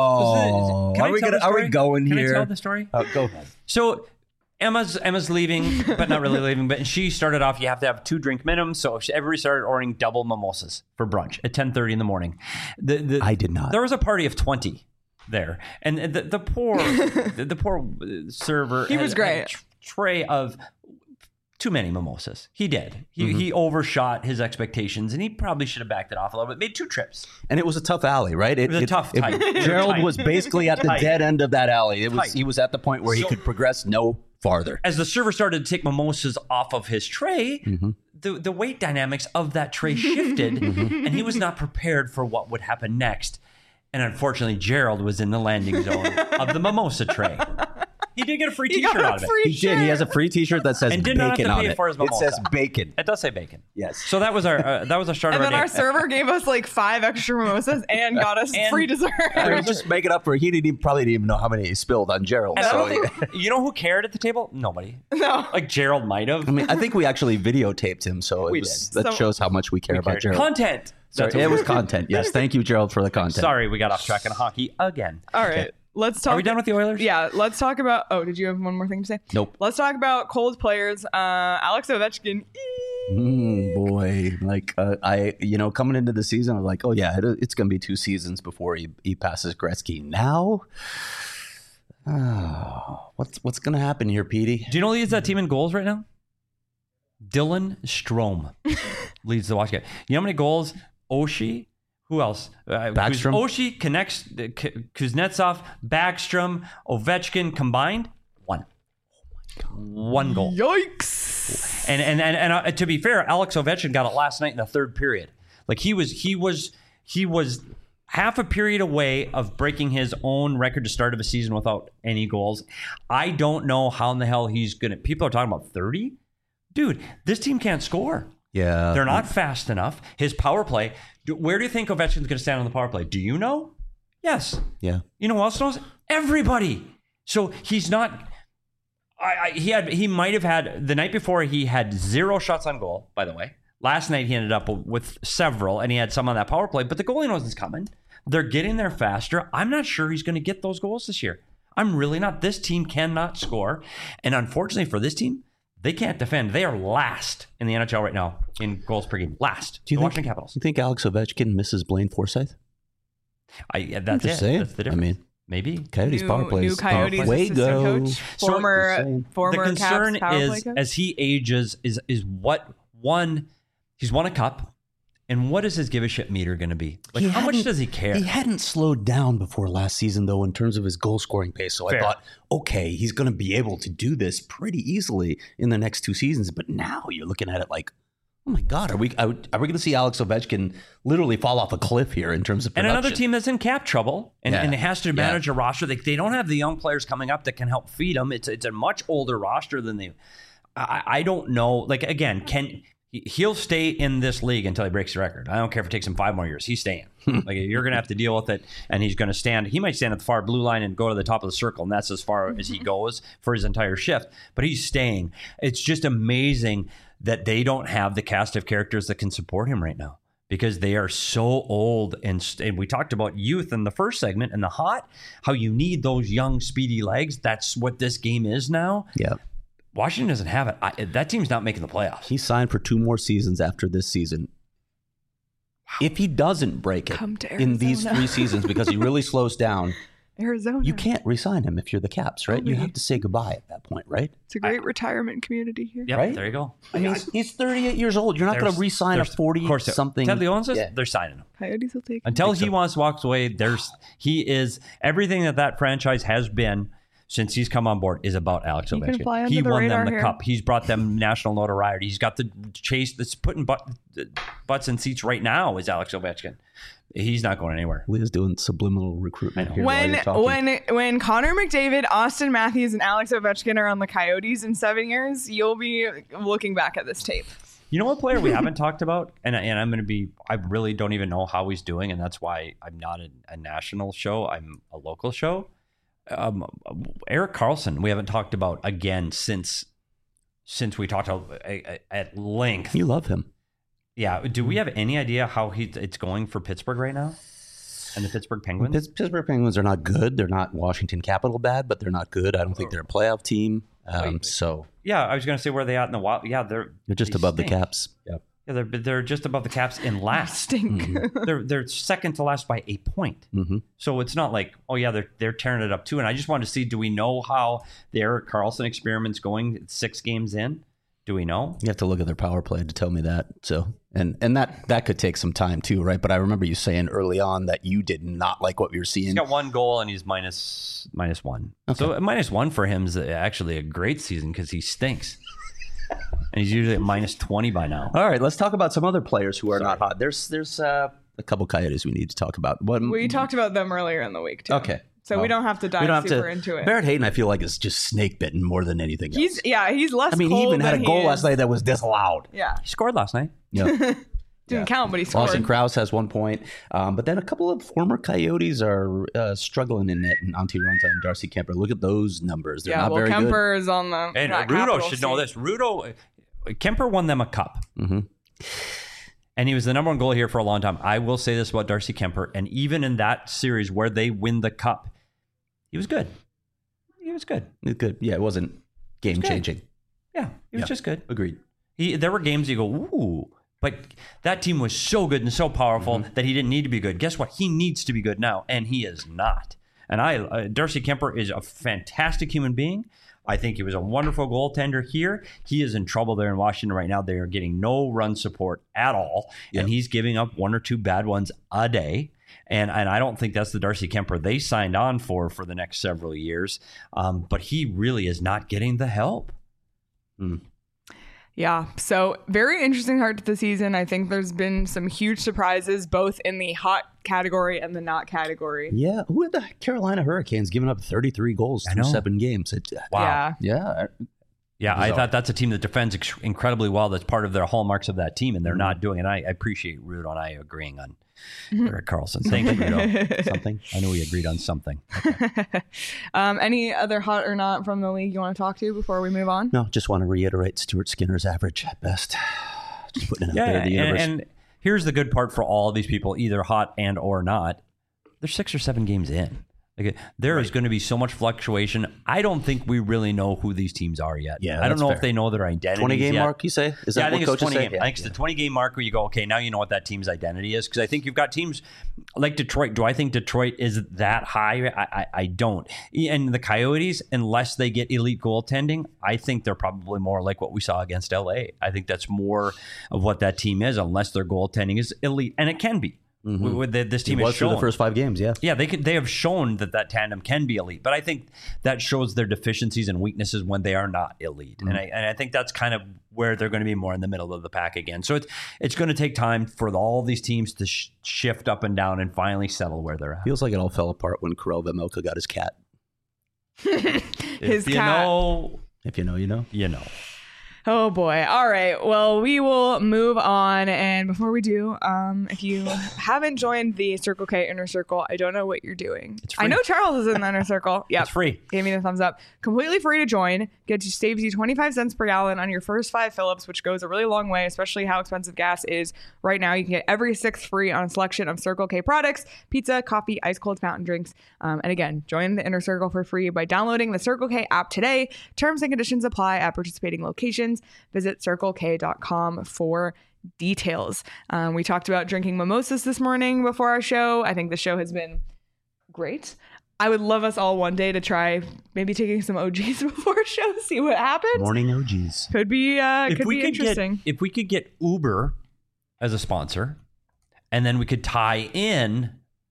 Oh, Can I are we tell gonna? the Are we story? going Can I here? tell the story? Oh, go ahead. So Emma's Emma's leaving, but not really leaving. But she started off. You have to have two drink minimum. So she, everybody started ordering double mimosas for brunch at ten thirty in the morning. The, the, I did not. There was a party of twenty there, and the, the poor the, the poor server. He had- was had great. a tr- tray of too many mimosas. He did. He Mm-hmm. he overshot his expectations, and he probably should have backed it off a little bit. Made two trips. And it was a tough alley, right? It, was a tough, it- tight. Gerald Tight. was basically at the Tight. dead end of that alley. It was. Tight. He was at the point where he So- could progress no farther. As the server started to take mimosas off of his tray, the, the weight dynamics of that tray shifted, and he was not prepared for what would happen next. And unfortunately, Gerald was in the landing zone of the mimosa tray. He did get a free He T-shirt got out a of it. free He did. He has a free T-shirt that says And did not have bacon to on pay it. for his It mimosa. says bacon. It does say bacon. Yes. So that was our uh, that was our start And of then our our day. server gave us like five extra mimosas and got us And- free dessert. It was just make it up for. He didn't even, probably didn't even know how many he spilled on Gerald. And I So don't think, you know who cared at the table? Nobody. No. Like Gerald might have. I mean, I think we actually videotaped him, so it We was, did. that So- shows how much we care about Gerald. Content. Sorry, That's what it we- was content. Yes, thank you, Gerald, for the content. Sorry, we got off track in hockey again. All right. Let's talk. Are we done with the Oilers? Yeah, let's talk about. Oh, did you have one more thing to say? Nope. Let's talk about cold players. Uh, Alex Ovechkin. Mm, boy, like uh, I, you know, coming into the season, I'm like, oh yeah, it, it's going to be two seasons before he, he passes Gretzky. Now, oh, what's what's going to happen here, Petey? Do you know who leads that team in goals right now? Dylan Strome leads the watch guy. You know how many goals? Oshie. Who else? Uh, Backstrom? Oshie connects uh, K- Kuznetsov, Backstrom, Ovechkin combined. One. One goal. Yikes! And and and, and uh, to be fair, Alex Ovechkin got it last night in the third period. Like he was he was he was half a period away of breaking his own record to start of a season without any goals. I don't know how in the hell he's going to... People are talking about thirty? Dude, this team can't score. Yeah. They're not fast enough. His power play... Where do you think Ovechkin's going to stand on the power play? Do you know? Yes. Yeah. You know who else knows? Everybody. So he's not... I, I, he had. He might have had... The night before, he had zero shots on goal, by the way. Last night, he ended up with several, and he had some on that power play, but the goalie knows it's coming. They're getting there faster. I'm not sure he's going to get those goals this year. I'm really not. This team cannot score. And unfortunately for this team, they can't defend. They are last in the N H L right now in goals per game. Last. Do you the think, Washington Capitals. You think Alex Ovechkin misses Blaine Forsythe? I, yeah, that's just it. saying. That's the I difference. mean, maybe. Coyotes New, power plays. new Coyotes Way assistant go. coach, So, former just saying. former the concern Caps power play is coach. as he ages is is what one he's won a cup, and what is his give a shit meter going to be? Like He how much hadn't- does he care? He hadn't slowed down before last season, though, in terms of his goal scoring pace. So Fair. I thought, okay, he's going to be able to do this pretty easily in the next two seasons. But now you're looking at it like, oh my God, are we are we going to see Alex Ovechkin literally fall off a cliff here in terms of And production? another team that's in cap trouble and, Yeah. and it has to Yeah. manage a roster. They, they don't have the young players coming up that can help feed them. It's it's a much older roster than they. I, I don't know. Like again, can he'll stay in this league until he breaks the record. I don't care if it takes him five more years. He's staying. Like you're going to have to deal with it, and he's going to stand. He might stand at the far blue line and go to the top of the circle, and that's as far as he goes for his entire shift. But he's staying. It's just amazing that they don't have the cast of characters that can support him right now, because they are so old. And, and we talked about youth in the first segment and the hot, how you need those young, speedy legs. That's what this game is now. Yeah. Washington doesn't have it. I, that team's not making the playoffs. He signed for two more seasons after this season. If he doesn't break it Come to in these Arizona. three seasons because he really slows down, Arizona. you can't re-sign him if you're the Caps, right? You Okay. have to say goodbye at that point, right? It's a great retirement community here. Yep, Right? there you go. I mean, he's, he's thirty-eight years old. You're not going There's- to re-sign a there's- of course, forty-something. Ted Leon says Yeah. they're signing him. Coyotes will take. Until think he so. wants to walk away, there's he is everything that that franchise has been since he's come on board is about Alex He can Ovechkin. fly under He the won them radar the here. cup. He's brought them national notoriety. He's got the chase that's putting butt, butts in seats right now is Alex Ovechkin. He's not going anywhere. Leah's doing subliminal recruitment I know. here while When you're talking. when when Connor McDavid, Austin Matthews, and Alex Ovechkin are on the Coyotes in seven years, you'll be looking back at this tape. You know what player we haven't talked about, and and I'm going to be. I really don't even know how he's doing, and that's why I'm not a, a national show. I'm a local show. Um, Eric Carlson, we haven't talked about again since since we talked about, uh, at length. You love him. Yeah. Do we have any idea how he it's going for Pittsburgh right now, and the Pittsburgh Penguins? Pitts- Pittsburgh Penguins are not good. They're not Washington Capital bad, but they're not good. I don't think they're a playoff team. Um, Wait. so Yeah, I was going to say where are they at in the wild. Yeah, they're they're just they above stink. the Caps. Yeah. Yeah, they're they're just above the Caps in last. Stink. they're they're second to last by a point. hmm So it's not like, oh yeah, they're they're tearing it up too. And I just wanted to see, do we know how the Eric Carlson experiment's going six games in? Do we know? You have to look at their power play to tell me that. So and and that that could take some time too, right? But I remember you saying early on that you did not like what you were seeing. He's got one goal and he's minus minus one. Okay. So minus one for him is actually a great season because he stinks. And he's usually at minus twenty by now. All right, let's talk about some other players who are not hot. There's there's uh, a couple Coyotes we need to talk about. What, We talked about them earlier in the week too. Okay. So Well, we don't have to dive we don't have super to. into it. Barrett Hayton, I feel like is just snake bitten more than anything else. He's yeah, he's less. I mean, he cold even had a than goal he last is- night that was disallowed. Yeah, He scored last night. Yeah. didn't Yeah. count, but he scored. Austin Krause has one point, um, but then a couple of former Coyotes are uh, struggling in net. And Antti Ranta and Darcy Kemper. Look at those numbers; they're yeah, not well, very Kemper is on the. And that Rudo capital should know seat. this. Rudo, Kemper won them a cup. good. hmm And he was the number one goalie here for a long time. I will say this about Darcy Kemper. And even in that series where they win the cup, he was good. He was good. It's good. Yeah, it wasn't game good. changing. Yeah, he was Yeah. just good. Agreed. He, there were games you go, ooh. But that team was so good and so powerful Mm-hmm. that he didn't need to be good. Guess what? He needs to be good now, and he is not. And I, uh, Darcy Kemper is a fantastic human being. I think he was a wonderful goaltender here. He is in trouble there in Washington right now. They are getting no run support at all, Yep. and he's giving up one or two bad ones a day. And and I don't think that's the Darcy Kemper they signed on for for the next several years. Um, but he really is not getting the help. Yeah. So very interesting start to the season. I think there's been some huge surprises, both in the hot category and the not category. Yeah. Who had the Carolina Hurricanes giving up thirty-three goals I through know. seven games? It, Wow. Yeah. yeah. Yeah, I Bizarre. thought that's a team that defends ex- incredibly well. That's part of their hallmarks of that team, and they're not doing it. I, I appreciate Rudo and I agreeing on Erik Karlsson. Thank you, Rudo. Something. I know we agreed on something. um, any other hot or not from the league you want to talk to before we move on? No, just want to reiterate Stuart Skinner's average at best. Just putting it out Yeah, there in the and, universe. and here's the good part for all of these people, either hot and or not. They're six or seven games in. Like, there is going to be so much fluctuation. I don't think we really know who these teams are yet. Yeah, I don't that's know fair. if they know their identity. twenty game mark, you say? Is Yeah, that I think what it's coaches twenty say? game. I think it's the twenty game mark where you go, okay, now you know what that team's identity is. Because I think you've got teams like Detroit. Do I think Detroit is that high? I, I, I don't. And the Coyotes, unless they get elite goaltending, I think they're probably more like what we saw against L A. I think that's more of what that team is, unless their goaltending is elite, and it can be. Mhm. With the, this It team was has through shown the first five games, yeah. yeah, they could. They have shown that that tandem can be elite, but I think that shows their deficiencies and weaknesses when they are not elite, Mm-hmm. and I and I think that's kind of where they're going to be more in the middle of the pack again. So it's it's going to take time for all these teams to sh- shift up and down and finally settle where they're at. Feels like it all fell apart when Karel Vejmelka got his cat. His if you cat. know, If you know, you know. you know. Oh boy. All right. Well, we will move on. And before we do, um, if you haven't joined the Circle K Inner Circle, I don't know what you're doing. It's I free. know Charles is in the Inner Circle. Yep. It's free. Gave me the thumbs up. Completely free to join. Gets you saves you twenty-five cents per gallon on your first five Phillips, which goes a really long way, especially how expensive gas is right now. You can get every sixth free on a selection of Circle K products, pizza, coffee, ice cold fountain drinks. Um, and again, join the Inner Circle for free by downloading the Circle K app today. Terms and conditions apply at participating locations. Visit circle k dot com for details. Um, we talked about drinking mimosas this morning before our show. I think the show has been great. I would love us all one day to try maybe taking some O Gs before a show, see what happens. Morning O Gs. Could be uh, If could we be could interesting. get if we could get Uber as a sponsor, and then we could tie in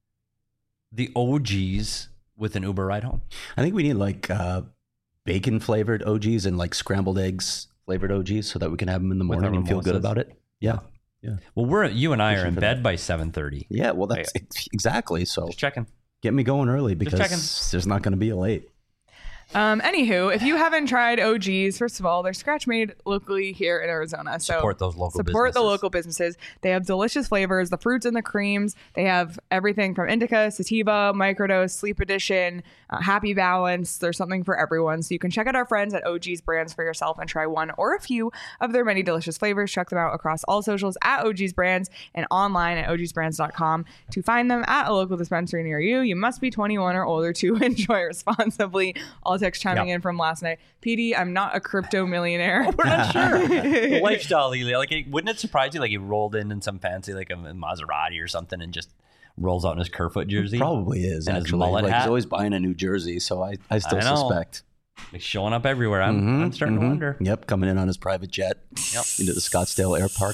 the O Gs with an Uber ride home. I think we need like uh, bacon flavored O Gs and like scrambled eggs flavored O Gs so that we can have them in the With morning our and feel good mimosas. about it. Yeah. Well, we're you and I are Pushing in for bed that. by seven thirty. Yeah. Well, that's exactly. So Just checking. get me going early because checking. there's not going to be a late. Um, anywho, if you haven't tried O Gs, first of all, they're scratch made locally here in Arizona. So Support those local support the businesses. local businesses. They have delicious flavors, the fruits and the creams. They have everything from indica, sativa, microdose, sleep edition, uh, happy balance. There's something for everyone. So you can check out our friends at O G's Brands for yourself and try one or a few of their many delicious flavors. Check them out across all socials at O G's Brands and online at O Gs brands dot com to find them at a local dispensary near you. You must be twenty-one or older to enjoy responsibly. All text chiming Yep. in from last night. P D, I'm not a crypto millionaire. We're not sure. The lifestyle, he- like, it- wouldn't it surprise you? Like, he rolled in in some fancy, like a Maserati or something, and just rolls out in his Kerfoot jersey, Probably is And his actually. mullet Like hat. he's always buying a new jersey, so I, I still I know. suspect. like showing up everywhere. I'm, Mhm, I'm starting mhm. to wonder. Yep, coming in on his private jet Yep. into the Scottsdale Air Park.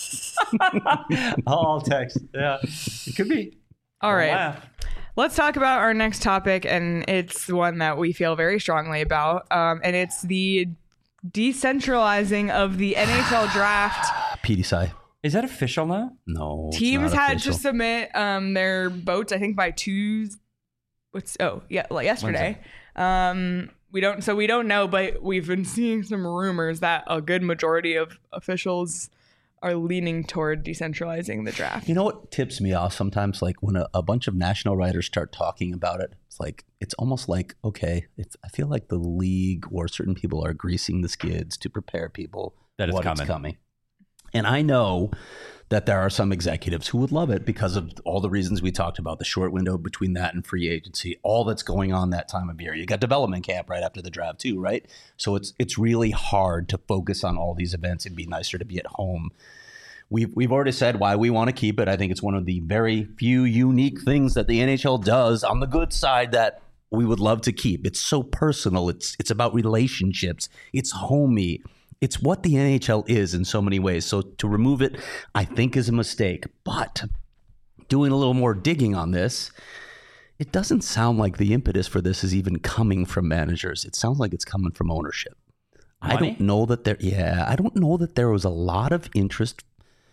I'll text. Yeah, it could be. All Don't right. laugh. Let's talk about our next topic, and it's one that we feel very strongly about, um, and it's the decentralizing of the N H L draft. P D S I. Is that official now? No. it's Teams not had official. to submit um, their votes, I think, by Tuesday. What's oh yeah, like yesterday. Um, we don't, so we don't know, but we've been seeing some rumors that a good majority of officials are leaning toward decentralizing the draft. You know what tips me off sometimes? Like when a, a bunch of national writers start talking about it, it's like, it's almost like, okay, it's, I feel like the league or certain people are greasing the skids to prepare people That it's what coming. it's coming. And I know that there are some executives who would love it because of all the reasons we talked about, the short window between that and free agency, all that's going on that time of year. You got development camp right after the draft too, right? So it's it's really hard to focus on all these events. It'd be nicer to be at home. We've, we've already said why we want to keep it. I think it's one of the very few unique things that the N H L does on the good side that we would love to keep. It's so personal. It's it's about relationships. It's homey. It's what the N H L is in so many ways. So to remove it, I think is a mistake. But doing a little more digging on this, it doesn't sound like the impetus for this is even coming from managers. It sounds like it's coming from ownership. I Money? don't know that there. Yeah, I don't know that there was a lot of interest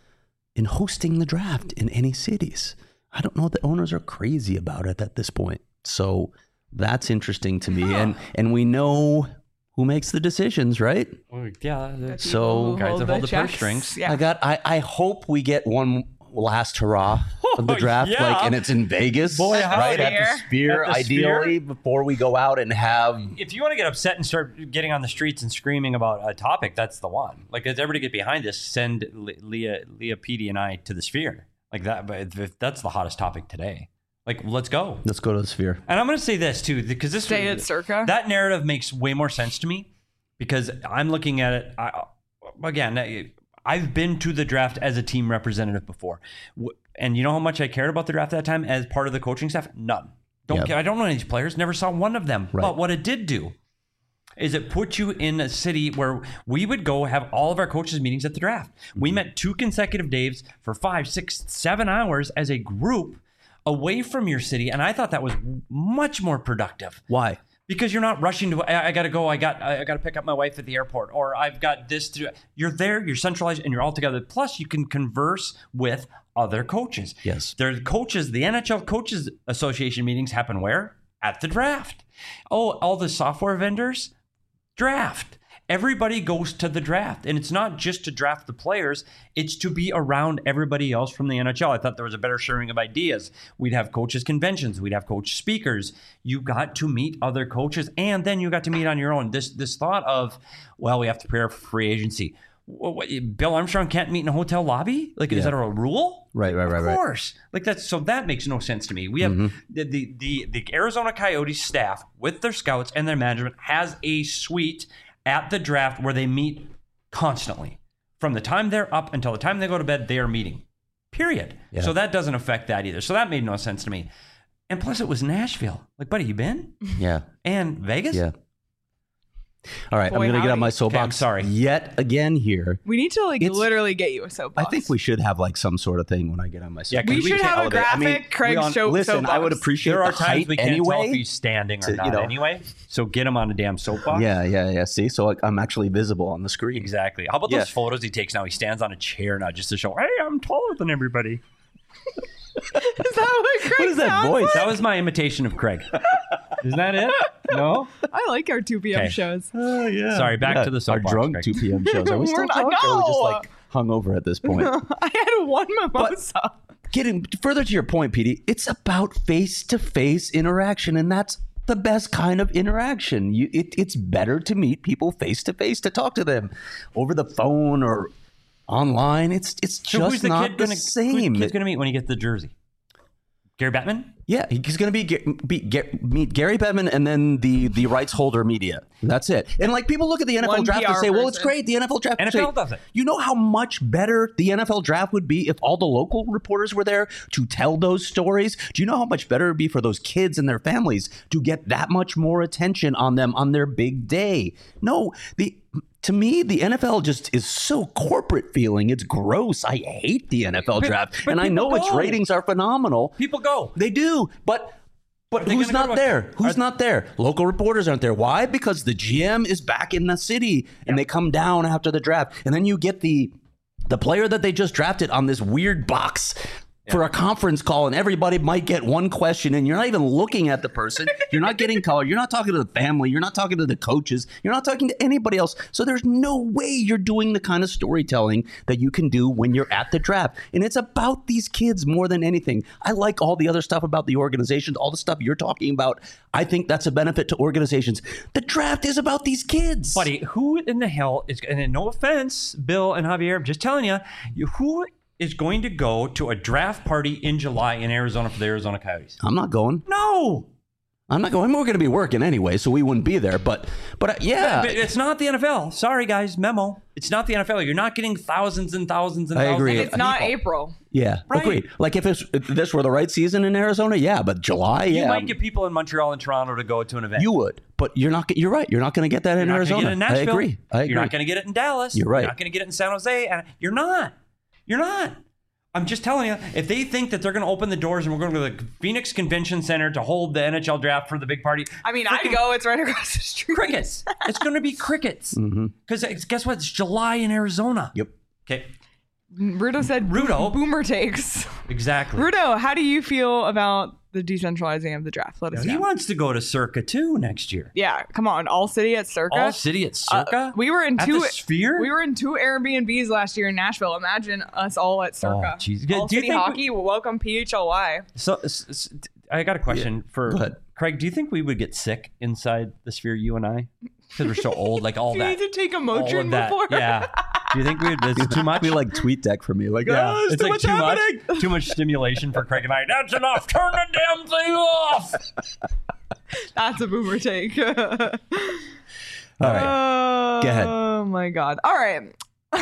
in hosting the draft in any cities. I don't know that owners are crazy about it at this point. So that's interesting to me. Huh. And and we know who makes the decisions, right? Yeah. The that's- So- people who Guys that hold the purse checks. strings. Yeah. I got. I, I hope we get one last hurrah of the Oh, draft, yeah. like, and it's in Vegas, Boy, right howdy. at the Sphere, At the Sphere. ideally, before we go out and have. If you want to get upset and start getting on the streets and screaming about a topic, that's the one. Like, as everybody get behind this, send Le- Leah, Leah Petey and I to the Sphere. Like that, but if- if that's the hottest topic today. Like, let's go. Let's go to the Sphere. And I'm going to say this too, because this Stay at Circa. that narrative makes way more sense to me because I'm looking at it. I, again, I- I've been to the draft as a team representative before, W- and you know how much I cared about the draft at that time as part of the coaching staff. None. Don't Yep. care. I don't know any of these players. Never saw one of them. Right. But what it did do is it put you in a city where we would go have all of our coaches meetings at the draft. We met two consecutive days for five, six, seven hours as a group away from your city, and I thought that was much more productive Why? because you're not rushing to. I, I got to go. I got. I, I got to pick up my wife at the airport, or I've got this to. do. You're there. You're centralized, and you're all together. Plus, you can converse with other coaches. Yes. There's coaches. The N H L Coaches Association meetings happen where? At the draft. Oh, all the software vendors. Draft. Everybody goes to the draft, and it's not just to draft the players, it's to be around everybody else from the N H L. I thought there was a better sharing of ideas. We'd have coaches conventions, we'd have coach speakers. You got to meet other coaches, and then you got to meet on your own. This this thought of, well, we have to prepare for free agency. What, what, Bill Armstrong can't meet in a hotel lobby? Like, Yeah. is that a rule? Right, right, right, Of right. course. Like that's so that makes no sense to me. We have Mm-hmm. the, the the the Arizona Coyotes staff with their scouts and their management has a suite at the draft where they meet constantly. From the time they're up until the time they go to bed, they are meeting. Period. Yeah. So that doesn't affect that either. So that made no sense to me. And plus it was Nashville. Like, buddy, you been? Yeah. And Vegas? Yeah. All right, Boy, I'm going to get on howdy. my soapbox Okay, I'm sorry. yet again here. We need to like It's- literally get you a I soapbox. think we should have like some sort of thing when I get on my Yeah, soapbox. 'cause we we should can't have a elevate. I graphic. mean, Craig's we on- show. Listen, I would soapbox. appreciate There are the times height we can't anyway. tell if he's standing or to, you not know. anyway. So get him on a damn soapbox. Yeah, yeah, yeah. See, so like, I'm actually visible on the screen. Exactly. How about Yeah. those photos he takes now? He stands on a chair now just to show, hey, I'm taller than everybody. Is that what Craig What is that sounds voice? like? That was my imitation of Craig. Isn't that it? No? I like our two p.m. Okay. shows. Oh yeah. Sorry, back Yeah, to the our soapbox, drunk Greg. two p.m. shows. Are we still We're not- drunk? Or are we just no. like hungover at this point? I had one mimosa. Getting further to your point, Petey, it's about face-to-face interaction, and that's the best kind of interaction. You, it, it's better to meet people face-to-face, to talk to them over the phone or online. It's it's So just who's the not kid the gonna, same. Who's the kid going to meet when he gets the jersey? Gary Bettman? Yeah, he's going to be, get, be get, meet Gary Bettman and then the the rights holder media. That's it. And like people look at the N F L One draft P and R say, "Well, it's person. great. The N F L draft." N F Say, L does it. You know how much better the N F L draft would be if all the local reporters were there to tell those stories? Do you know how much better it would be for those kids and their families to get that much more attention on them on their big day? No, the to me, the N F L just is so corporate feeling. It's gross. I hate the N F L But- draft. but and I people know its go. ratings are phenomenal. People go. They do, but but they who's gonna go not to a- there? Who's are- not there? Local reporters aren't there. Why? Because the G M is back in the city, and they come down after the draft, and then you get the the player that they just drafted on this weird box. For a conference call, and everybody might get one question, and you're not even looking at the person. You're not getting color. You're not talking to the family. You're not talking to the coaches. You're not talking to anybody else. So there's no way you're doing the kind of storytelling that you can do when you're at the draft. And it's about these kids more than anything. I like all the other stuff about the organizations, all the stuff you're talking about. I think that's a benefit to organizations. The draft is about these kids. Buddy, who in the hell is, and no offense, Bill and Javier, I'm just telling you, you who is going to go to a draft party in July in Arizona for the Arizona Coyotes? I'm not going. No. I'm not going. We're going to be working anyway, so we wouldn't be there. But, but uh, yeah. But it's not the N F L. Sorry, guys. Memo. It's not the N F L. You're not getting thousands and thousands and I thousands agree. of It's not people. April. Yeah, Right. agreed. Like if, it's, if this were the right season in Arizona, yeah, but July, You yeah, might get people in Montreal and Toronto to go to an event. you would. But you're not. You're right. You're not going to get that in You're not Arizona. going to get it in Nashville. I agree. I agree. You're not going to get it in Dallas. You're right. You're not going to get it in San Jose. And you're not. You're not. I'm just telling you, if they think that they're going to open the doors and we're going to go to the Phoenix Convention Center to hold the N H L draft for the big party, I mean, I'd go. It's right across the street. crickets. It's going to be crickets. Because Mm-hmm. guess what? It's July in Arizona. Yep. Okay. Rudo said Rudo. boomer takes. Exactly. Rudo, how do you feel about the decentralizing of the draft? Let us He know. wants to go to Circa too next year. Yeah, come on. All city at Circa. All city at Circa. Uh, we were in at two the Sphere. We were in two Airbnbs last year in Nashville. Imagine us all at Circa. Oh, jeez. All Do you city think hockey. Welcome P H L Y. So, s- s- I got a question for Go ahead. Craig. Do you think we would get sick inside the Sphere, you and I, because we're so old? Like all Do you that. need to take a all of Motrin that. before? Yeah. Do you think we'd? It's too much. We like tweet deck from you. Like, Yeah, oh, it's too like much too happening. much, too much stimulation for Craig and I. That's enough. Turn the damn thing off. That's a boomer take. All right. Oh, Go ahead. Oh my God. All right.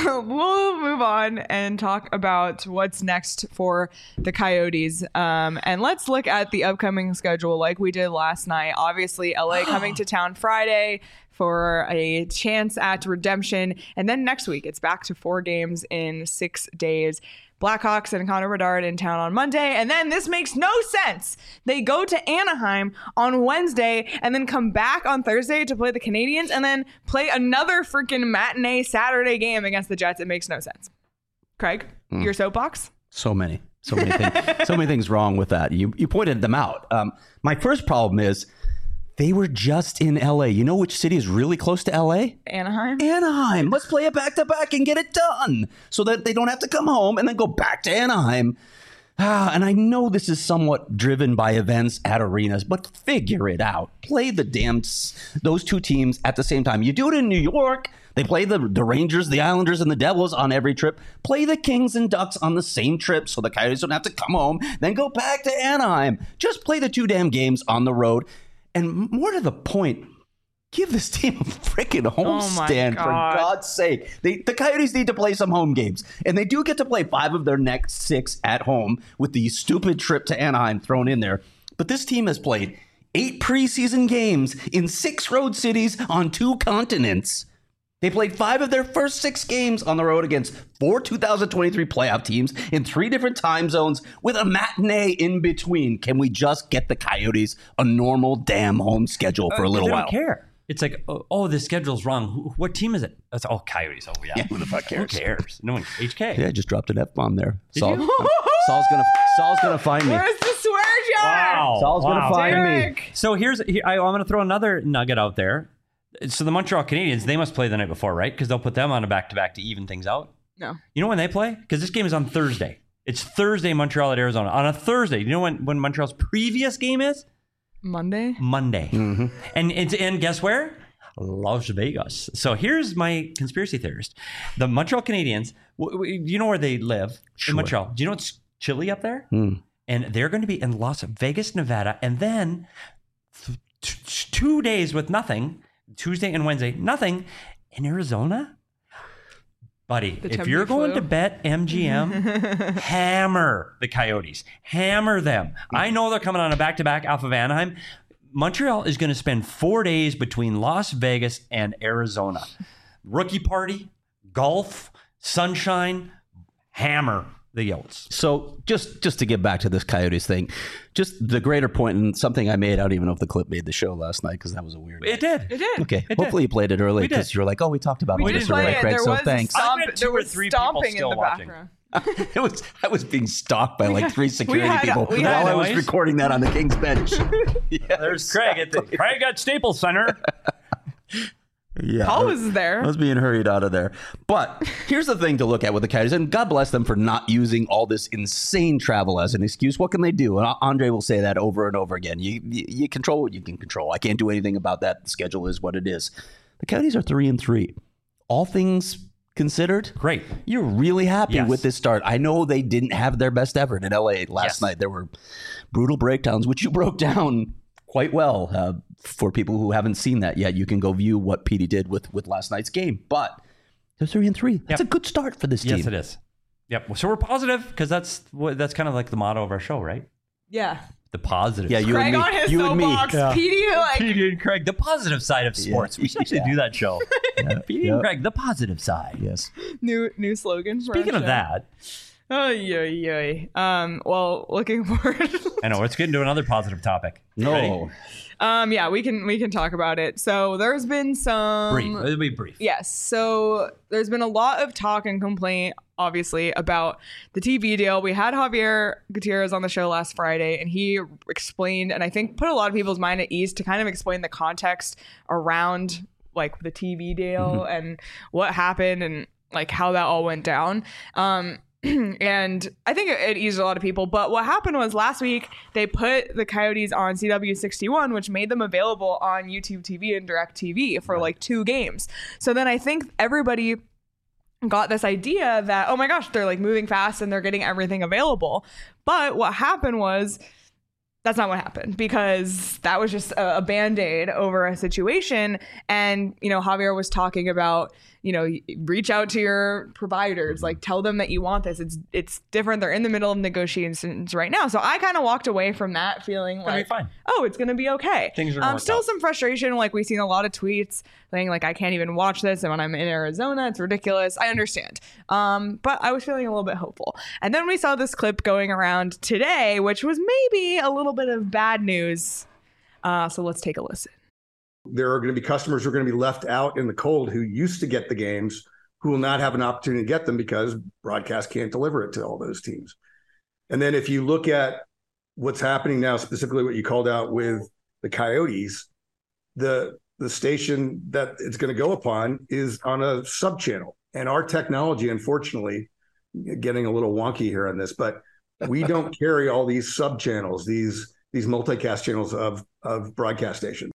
We'll move on and talk about what's next for the Coyotes. Um, and let's look at the upcoming schedule like we did last night. Obviously, L A coming to town Friday for a chance at redemption. And then next week, it's back to four games in six days. Blackhawks and Connor Bedard in town on Monday. And then this makes no sense. They go to Anaheim on Wednesday and then come back on Thursday to play the Canadiens and then play another freaking matinee Saturday game against the Jets. It makes no sense. Craig, Mm. your soapbox? So many, so many things, so many things wrong with that. You you pointed them out. Um, my first problem is they were just in L A. You know which city is really close to L A? Anaheim? Anaheim. Let's play it back to back and get it done so that they don't have to come home and then go back to Anaheim. Ah, and I know this is somewhat driven by events at arenas, but figure it out. Play the damn s- those two teams at the same time. You do it in New York. They play the, the Rangers, the Islanders, and the Devils on every trip. Play the Kings and Ducks on the same trip so the Coyotes don't have to come home, then go back to Anaheim. Just play the two damn games on the road. And more to the point, give this team a freaking homestand, for God. God's sake. They, the Coyotes need to play some home games. And they do get to play five of their next six at home with the stupid trip to Anaheim thrown in there. But this team has played eight preseason games in six road cities on two continents. They played five of their first six games on the road against four two thousand twenty-three playoff teams in three different time zones with a matinee in between. Can we just get the Coyotes a normal damn home schedule for a little they while? don't care. It's like, oh, oh, the schedule's wrong. Who, what team is it? That's all Coyotes. Oh, yeah. Yeah, who the fuck cares? Who cares? No one. H K. Yeah, I just dropped an F-bomb there. Did Saul, you? Saul's gonna Saul's gonna find me. Where's the swear jar? Wow. Saul's wow. gonna find me. Derek. So here's here, I, I'm going to throw another nugget out there. So the Montreal Canadiens, they must play the night before, right? Because they'll put them on a back-to-back to even things out. No. You know when they play? Because this game is on Thursday. It's Thursday, Montreal at Arizona. On a Thursday. You know when, when Montreal's previous game is? Monday? Monday. Mm-hmm. And it's and guess where? Las Vegas. So here's my conspiracy theorist. The Montreal Canadiens, w- w- you know where they live? Sure. In Montreal. Do you know it's chilly up there? Mm. And they're going to be in Las Vegas, Nevada. And then th- t- two days with nothing, Tuesday and Wednesday, nothing in Arizona. Buddy, The if you're Tempe going flu. to bet M G M, hammer the Coyotes. Hammer them. I know they're coming on a back-to-back off of Anaheim. Montreal is going to spend four days between Las Vegas and Arizona. Rookie party, golf, sunshine, hammer the Yotes. So just just to get back to this Coyotes thing, just the greater point and something I made. I don't even know if the clip made the show last night because that was a weird. It did. It did. Okay, It hopefully you played it early We did. because you're like, oh, we talked about We all did this play already, it. Craig. There So was thanks. Stomp, I bet two there or was three people stomping in still the watching. background. it was I was being stalked by like three security had- people we while had I was noise. recording that on the King's bench. Yeah, There's Craig at the Craig at Staples Center. yeah. Paul was there. I was being hurried out of there. But here's the thing to look at with the Coyotes, and God bless them for not using all this insane travel as an excuse. What can they do? And Andre will say that over and over again. You, you you control what you can control. I can't do anything about that. The schedule is what it is. The Coyotes are three and three. All things considered, Great. you're really happy Yes. with this start. I know they didn't have their best effort in L A last Yes. night. There were brutal breakdowns, which you broke down quite well. Uh, for people who haven't seen that yet, you can go view what Petey did with, with last night's game. But they're three and three. That's Yep. a good start for this team. Yes, it is. Yep. So we're positive because that's what that's kind of like the motto of our show, right? Yeah. The positive. Yeah, you Craig and me. on his You and me. soapbox. Yeah. Petey, like, Petey and Craig, the positive side of sports. We should actually Yeah. do that show. Petey Yeah. and Craig, the positive side. Yes. new new slogan. For Speaking our of show. that, Oh, yeah, yeah. Um, well, looking forward. I know. Let's get into another positive topic. No. Ready? um, yeah, we can we can talk about it. So there's been some Brief. It'll be brief. Yes. So there's been a lot of talk and complaint, obviously, about the T V deal. We had Javier Gutierrez on the show last Friday, and he explained, and I think put a lot of people's mind at ease to kind of explain the context around like the T V deal mm-hmm. and what happened and like how that all went down. Um, and I think it, it eased a lot of people. But what happened was last week they put the Coyotes on C W sixty-one, which made them available on YouTube T V and DirecTV for like two games. So then I think everybody got this idea that, oh my gosh, they're like moving fast and they're getting everything available. But what happened was that's not what happened, because that was just a, a Band-Aid over a situation. And, you know, Javier was talking about, you know, reach out to your providers, like tell them that you want this. It's it's different. They're in the middle of negotiations right now. So I kind of walked away from that feeling like, fine. oh, it's going to be okay. Things are um, still out. some frustration. Like we've seen a lot of tweets saying like, I can't even watch this. And when I'm in Arizona, it's ridiculous. I understand. Um, but I was feeling a little bit hopeful. And then we saw this clip going around today, which was maybe a little bit of bad news. Uh, so let's take a listen. There are going to be customers who are going to be left out in the cold who used to get the games, who will not have an opportunity to get them because broadcast can't deliver it to all those teams. And then if you look at what's happening now, specifically what you called out with the Coyotes, the the station that it's going to go upon is on a sub-channel. And our technology, unfortunately, getting a little wonky here on this, but we don't carry all these sub-channels, these these multicast channels of of broadcast stations.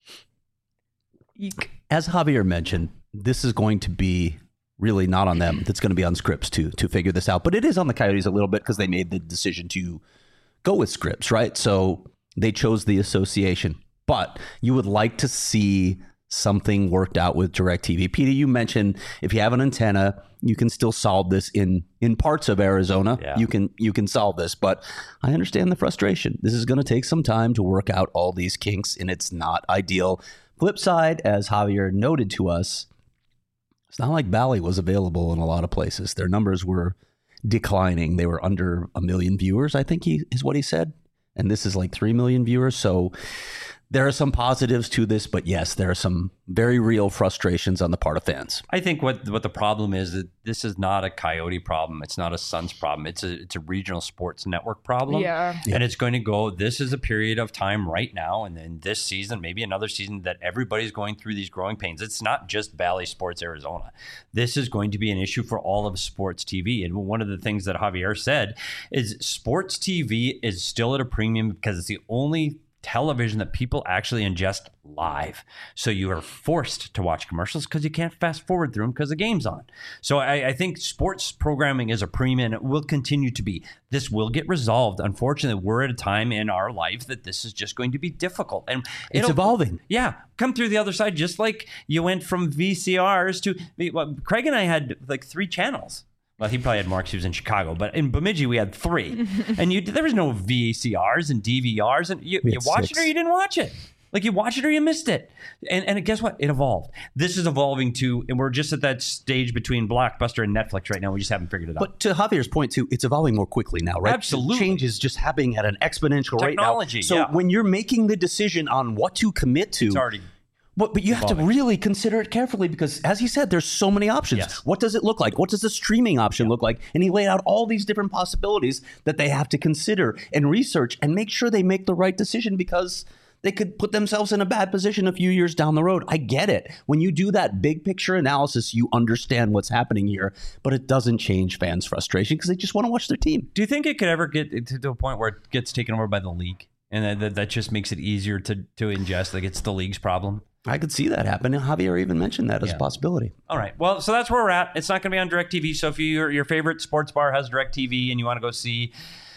As Javier mentioned, this is going to be really not on them. That's going to be on Scripps to to figure this out. But it is on the Coyotes a little bit because they made the decision to go with Scripps, right? So they chose the association. But you would like to see something worked out with DirecTV. Peter, you mentioned if you have an antenna, you can still solve this in in parts of Arizona. Yeah. You can you can solve this. But I understand the frustration. This is going to take some time to work out all these kinks, and it's not ideal. Flip side, as Javier noted to us, it's not like Bally was available in a lot of places. Their numbers were declining. They were under a million viewers, I think he is what he said. And this is like three million viewers. So there are some positives to this, but yes, there are some very real frustrations on the part of fans. I think what what the problem is that this is not a Coyote problem. It's not a Suns problem. It's a it's a regional sports network problem. Yeah. And it's going to go, this is a period of time right now, and then this season, maybe another season, that everybody's going through these growing pains. It's not just Bally Sports Arizona. This is going to be an issue for all of sports T V. And one of the things that Javier said is sports T V is still at a premium because it's the only television that people actually ingest live. So you are forced to watch commercials because you can't fast forward through them because the game's on. So I, I think sports programming is a premium, and it will continue to be. This will get resolved. Unfortunately, we're at a time in our life that this is just going to be difficult. And it's evolving. Yeah. Come through the other side, just like you went from V C Rs to, well, Craig and I had like three channels. Well, he probably had more because he was in Chicago, but in Bemidji we had three, and you there was no V C Rs and D V Rs, and you, you watched it or you didn't watch it. Like you watched it or you missed it, and and guess what? It evolved. This is evolving too, and we're just at that stage between Blockbuster and Netflix right now. We just haven't figured it out. But to Javier's point too, it's evolving more quickly now, right? Absolutely, change is just happening at an exponential rate now. Technology, So yeah. when you're making the decision on what to commit to, It's already. But, but you have to really consider it carefully because, as he said, there's so many options. Yes. What does it look like? What does the streaming option look like? And he laid out all these different possibilities that they have to consider and research and make sure they make the right decision because they could put themselves in a bad position a few years down the road. I get it. When you do that big picture analysis, you understand what's happening here, but it doesn't change fans' frustration because they just want to watch their team. Do you think it could ever get to a point where it gets taken over by the league, and that, that, that just makes it easier to to ingest? Like it's the league's problem? I could see that happen. And Javier even mentioned that as Yeah. a possibility. All right. Well, so that's where we're at. It's not going to be on DirecTV. So if you, your favorite sports bar has DirecTV and you want to go see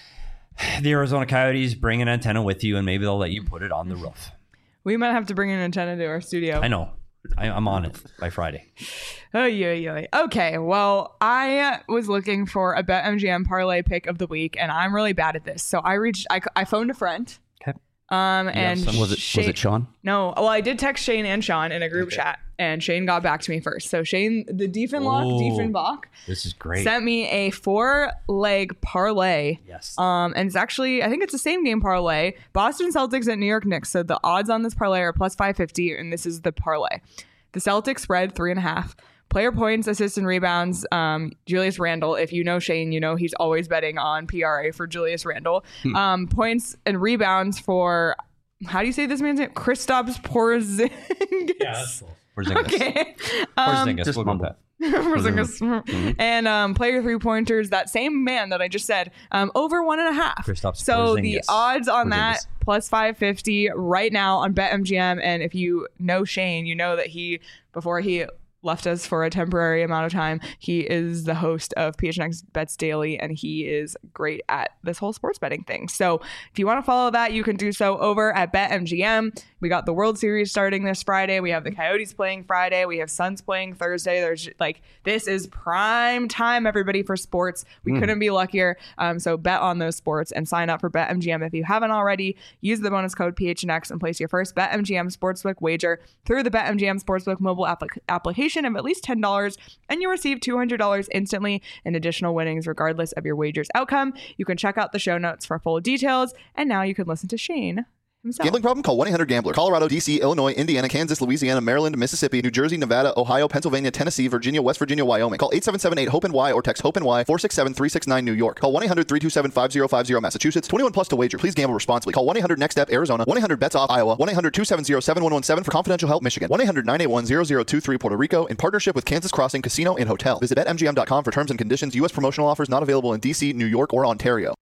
the Arizona Coyotes, bring an antenna with you, and maybe they'll let you put it on the roof. We might have to bring an antenna to our studio. I know. I, I'm on it by Friday. Oh, yeah, yeah. Okay, well, I was looking for a BetMGM parlay pick of the week, and I'm really bad at this. So I reached, I, I phoned a friend. Okay. Um, and some- Was it was Shane- it Sean? No, well, I did text Shane and Sean in a group Okay. chat. and Shane got back to me first. So Shane, the Diefenlock, Oh, Diefenbach, This is great. sent me a four leg parlay. Yes. Um, and it's actually, I think it's the same game parlay. Boston Celtics at New York Knicks. So the odds on this parlay are plus five fifty, and this is the parlay. The Celtics spread three and a half. Player points, assists, and rebounds. Um, Julius Randle. If you know Shane, you know he's always betting on P R A for Julius Randle. Hmm. Um, points and rebounds for, how do you say this man's name? Kristaps Porzingis. Yeah, that's cool. Porzingis. Okay. Um, Porzingis. just We'll go with mumble. that. Porzingis. And um, player three pointers, that same man that I just said, um, over one and a half. Kristaps So the Porzingis. odds on that Porzingis. plus five fifty right now on BetMGM. And if you know Shane, you know that he, before he left us for a temporary amount of time, he is the host of P H N X Bets Daily, and he is great at this whole sports betting thing. So if you want to follow that, you can do so over at BetMGM. We got the World Series starting this Friday. We have the Coyotes playing Friday. We have Suns playing Thursday. There's like, this is prime time, everybody, for sports. We Mm. couldn't be luckier. Um, so bet on those sports and sign up for BetMGM if you haven't already. Use the bonus code P H N X and place your first BetMGM Sportsbook wager through the BetMGM Sportsbook mobile applic- application of at least ten dollars, and you receive two hundred dollars instantly in additional winnings regardless of your wager's outcome. You can check out the show notes for full details, and now you can listen to Shane himself. Gambling problem? Call one eight hundred gambler. Colorado, D C, Illinois, Indiana, Kansas, Louisiana, Maryland, Mississippi, New Jersey, Nevada, Ohio, Pennsylvania, Tennessee, Virginia, West Virginia, Wyoming. Call eight seven seven eight hope N Y or text hope N Y four six seven three six nine New York. Call one eight hundred three two seven five zero five zero Massachusetts. twenty-one plus to wager. Please gamble responsibly. Call one eight hundred next step Arizona. one eight hundred bets off Iowa. one eight hundred two seven zero seven one one seven for confidential help Michigan. one eight hundred nine eight one zero zero two three Puerto Rico in partnership with Kansas Crossing Casino and Hotel. Visit bet M G M dot com for terms and conditions. U S promotional offers not available in D C, New York, or Ontario.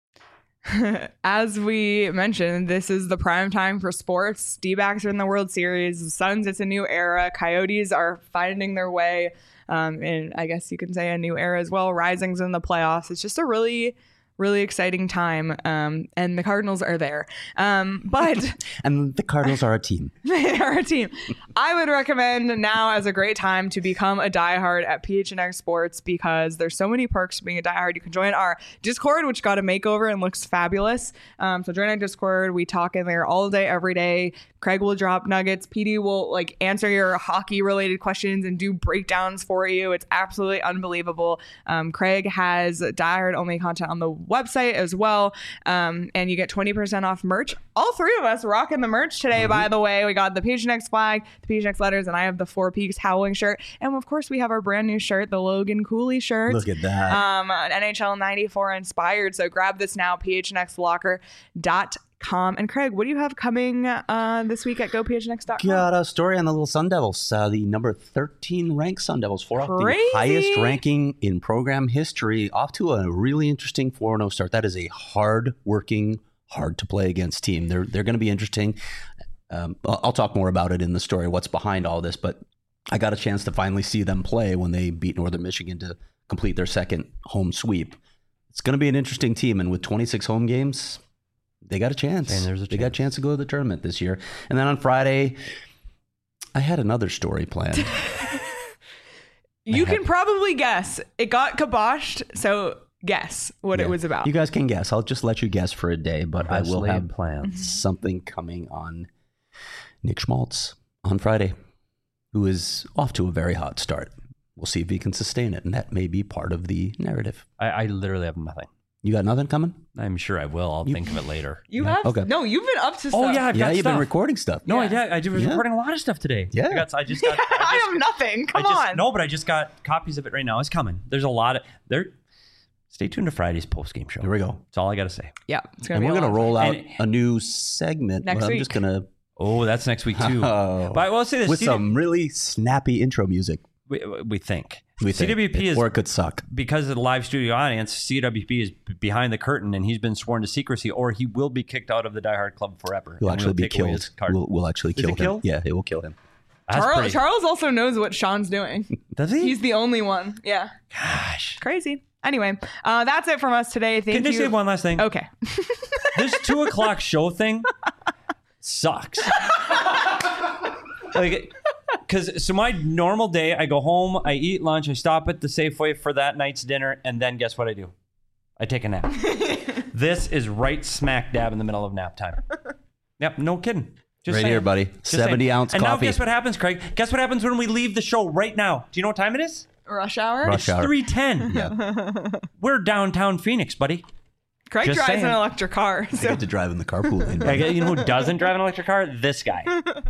As we mentioned, this is the prime time for sports. D-backs are in the World Series. The Suns, it's a new era. Coyotes are finding their way. Um, and I guess you can say a new era as well. Rising's in the playoffs. It's just a really, really exciting time. Um, and the Cardinals are there. Um, but And the Cardinals are a team. they are a team. I would recommend now as a great time to become a diehard at P H N X Sports because there's so many perks to being a diehard. You can join our Discord, which got a makeover and looks fabulous. Um, so join our Discord. We talk in there all day, every day. Craig will drop nuggets. P D will like answer your hockey related questions and do breakdowns for you. It's absolutely unbelievable. Um, Craig has diehard only content on the website as well. Um, and you get twenty percent off merch. All three of us rocking the merch today, mm-hmm. by the way. We got the P H N X flag, the P H N X letters, and I have the Four Peaks Howling shirt. And of course, we have our brand new shirt, the Logan Cooley shirt. Look at that. Um, N H L ninety-four inspired. So grab this now, P H N X locker dot com. And Craig, what do you have coming uh, this week at go P H N X dot com? Got a story on the little Sun Devils, uh, the number thirteen ranked Sun Devils, four off the Crazy. highest ranking in program history, off to a really interesting four and oh start. That is a hard-working, hard-to-play against team. They're they're going to be interesting. Um, I'll, I'll talk more about it in the story, what's behind all this, but I got a chance to finally see them play when they beat Northern Michigan to complete their second home sweep. It's going to be an interesting team, and with twenty-six home games, they got a chance. And there's a they chance. got a chance to go to the tournament this year. And then on Friday, I had another story planned. You can probably guess. It got kiboshed, so guess what Yeah. it was about. You guys can guess. I'll just let you guess for a day, but I Best will laid have plans. something coming on Nick Schmaltz on Friday, who is off to a very hot start. We'll see if he can sustain it, and that may be part of the narrative. I, I literally have nothing. You got nothing coming? I'm sure I will. I'll You- think of it later. You Yeah. have Okay. no. You've been up to. Oh stuff. yeah, I've yeah, got you've stuff. been recording stuff. No, Yeah. I did. I was Yeah. recording a lot of stuff today. Yeah. I, got, I just got. I, I just, have nothing. Come I just, on. No, but I just got copies of it right now. It's coming. There's a lot of there. Stay tuned to Friday's post game show. Here we go. That's all I got to say. Yeah, it's gonna And be. we're a going to lot of roll fun. out And- a new segment. Next but I'm week. just going to... Oh, that's next week too. Oh. But I will say this: with C- some really snappy intro music. we, we think We think. C W P is Or it could suck. because of the live studio audience. C W P is b- behind the curtain, and he's been sworn to secrecy, or he will be kicked out of the Die Hard Club forever. He'll And actually we'll be take away killed. his card. We'll, we'll actually Is kill it him. killed? Yeah, it will kill him. That's Charles, pretty- Charles also knows what Sean's doing. Does he? He's the only one. Yeah, Gosh. crazy. Anyway, uh, that's it from us today. Thank Can you. I say one last thing? Okay. This two o'clock show thing sucks. Like, because so my normal day, I go home, I eat lunch, I stop at the Safeway for that night's dinner, and then guess what I do? I take a nap. This is right smack dab in the middle of nap time. Yep, no kidding. Just right saying. here, buddy. Just seventy saying. ounce and coffee. And now guess what happens, Craig? Guess what happens when we leave the show right now? Do you know what time it is? Rush hour? Rush hour. three ten. Yeah. We're downtown Phoenix, buddy. Craig Just drives saying. an electric car. I So get to drive in the carpool lane. I buddy. get- you know who doesn't drive an electric car? This guy.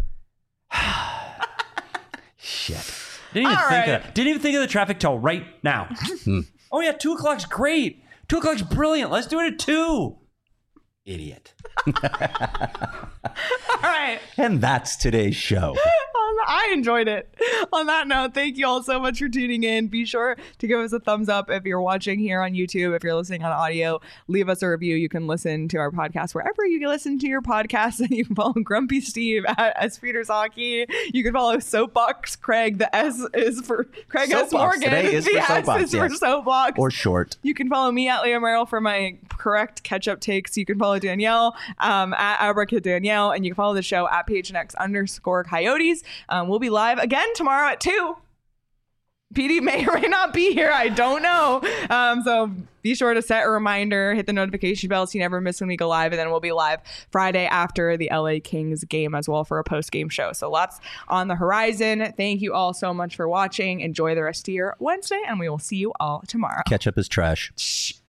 Shit. Didn't even All think right. of that. Didn't even think of the traffic till right now. Oh yeah, two o'clock's great. Two o'clock's brilliant. Let's do it at two. Idiot. all right. And that's today's show. I enjoyed it. On that note, thank you all so much for tuning in. Be sure to give us a thumbs up if you're watching here on YouTube. If you're listening on audio, leave us a review. You can listen to our podcast wherever you listen to your podcasts. And you can follow Grumpy Steve at S Peters Hockey. You can follow Soapbox Craig. The S is for Craig S. Soapbox. Morgan. Today is the for S Soapbox, is for yes. Soapbox. Or short. You can follow me at Leah Merrill for my correct catch-up takes. You can follow Danielle um, at Abracad Danielle, and you can follow the show at PHNX underscore Coyotes. Um, we'll be live again tomorrow at two. P D may or may not be here. I don't know. Um, so be sure to set a reminder, hit the notification bell so you never miss when we go live. And then we'll be live Friday after the L A Kings game as well for a post-game show. So lots on the horizon. Thank you all so much for watching. Enjoy the rest of your Wednesday, and we will see you all tomorrow. Ketchup is trash. Shh.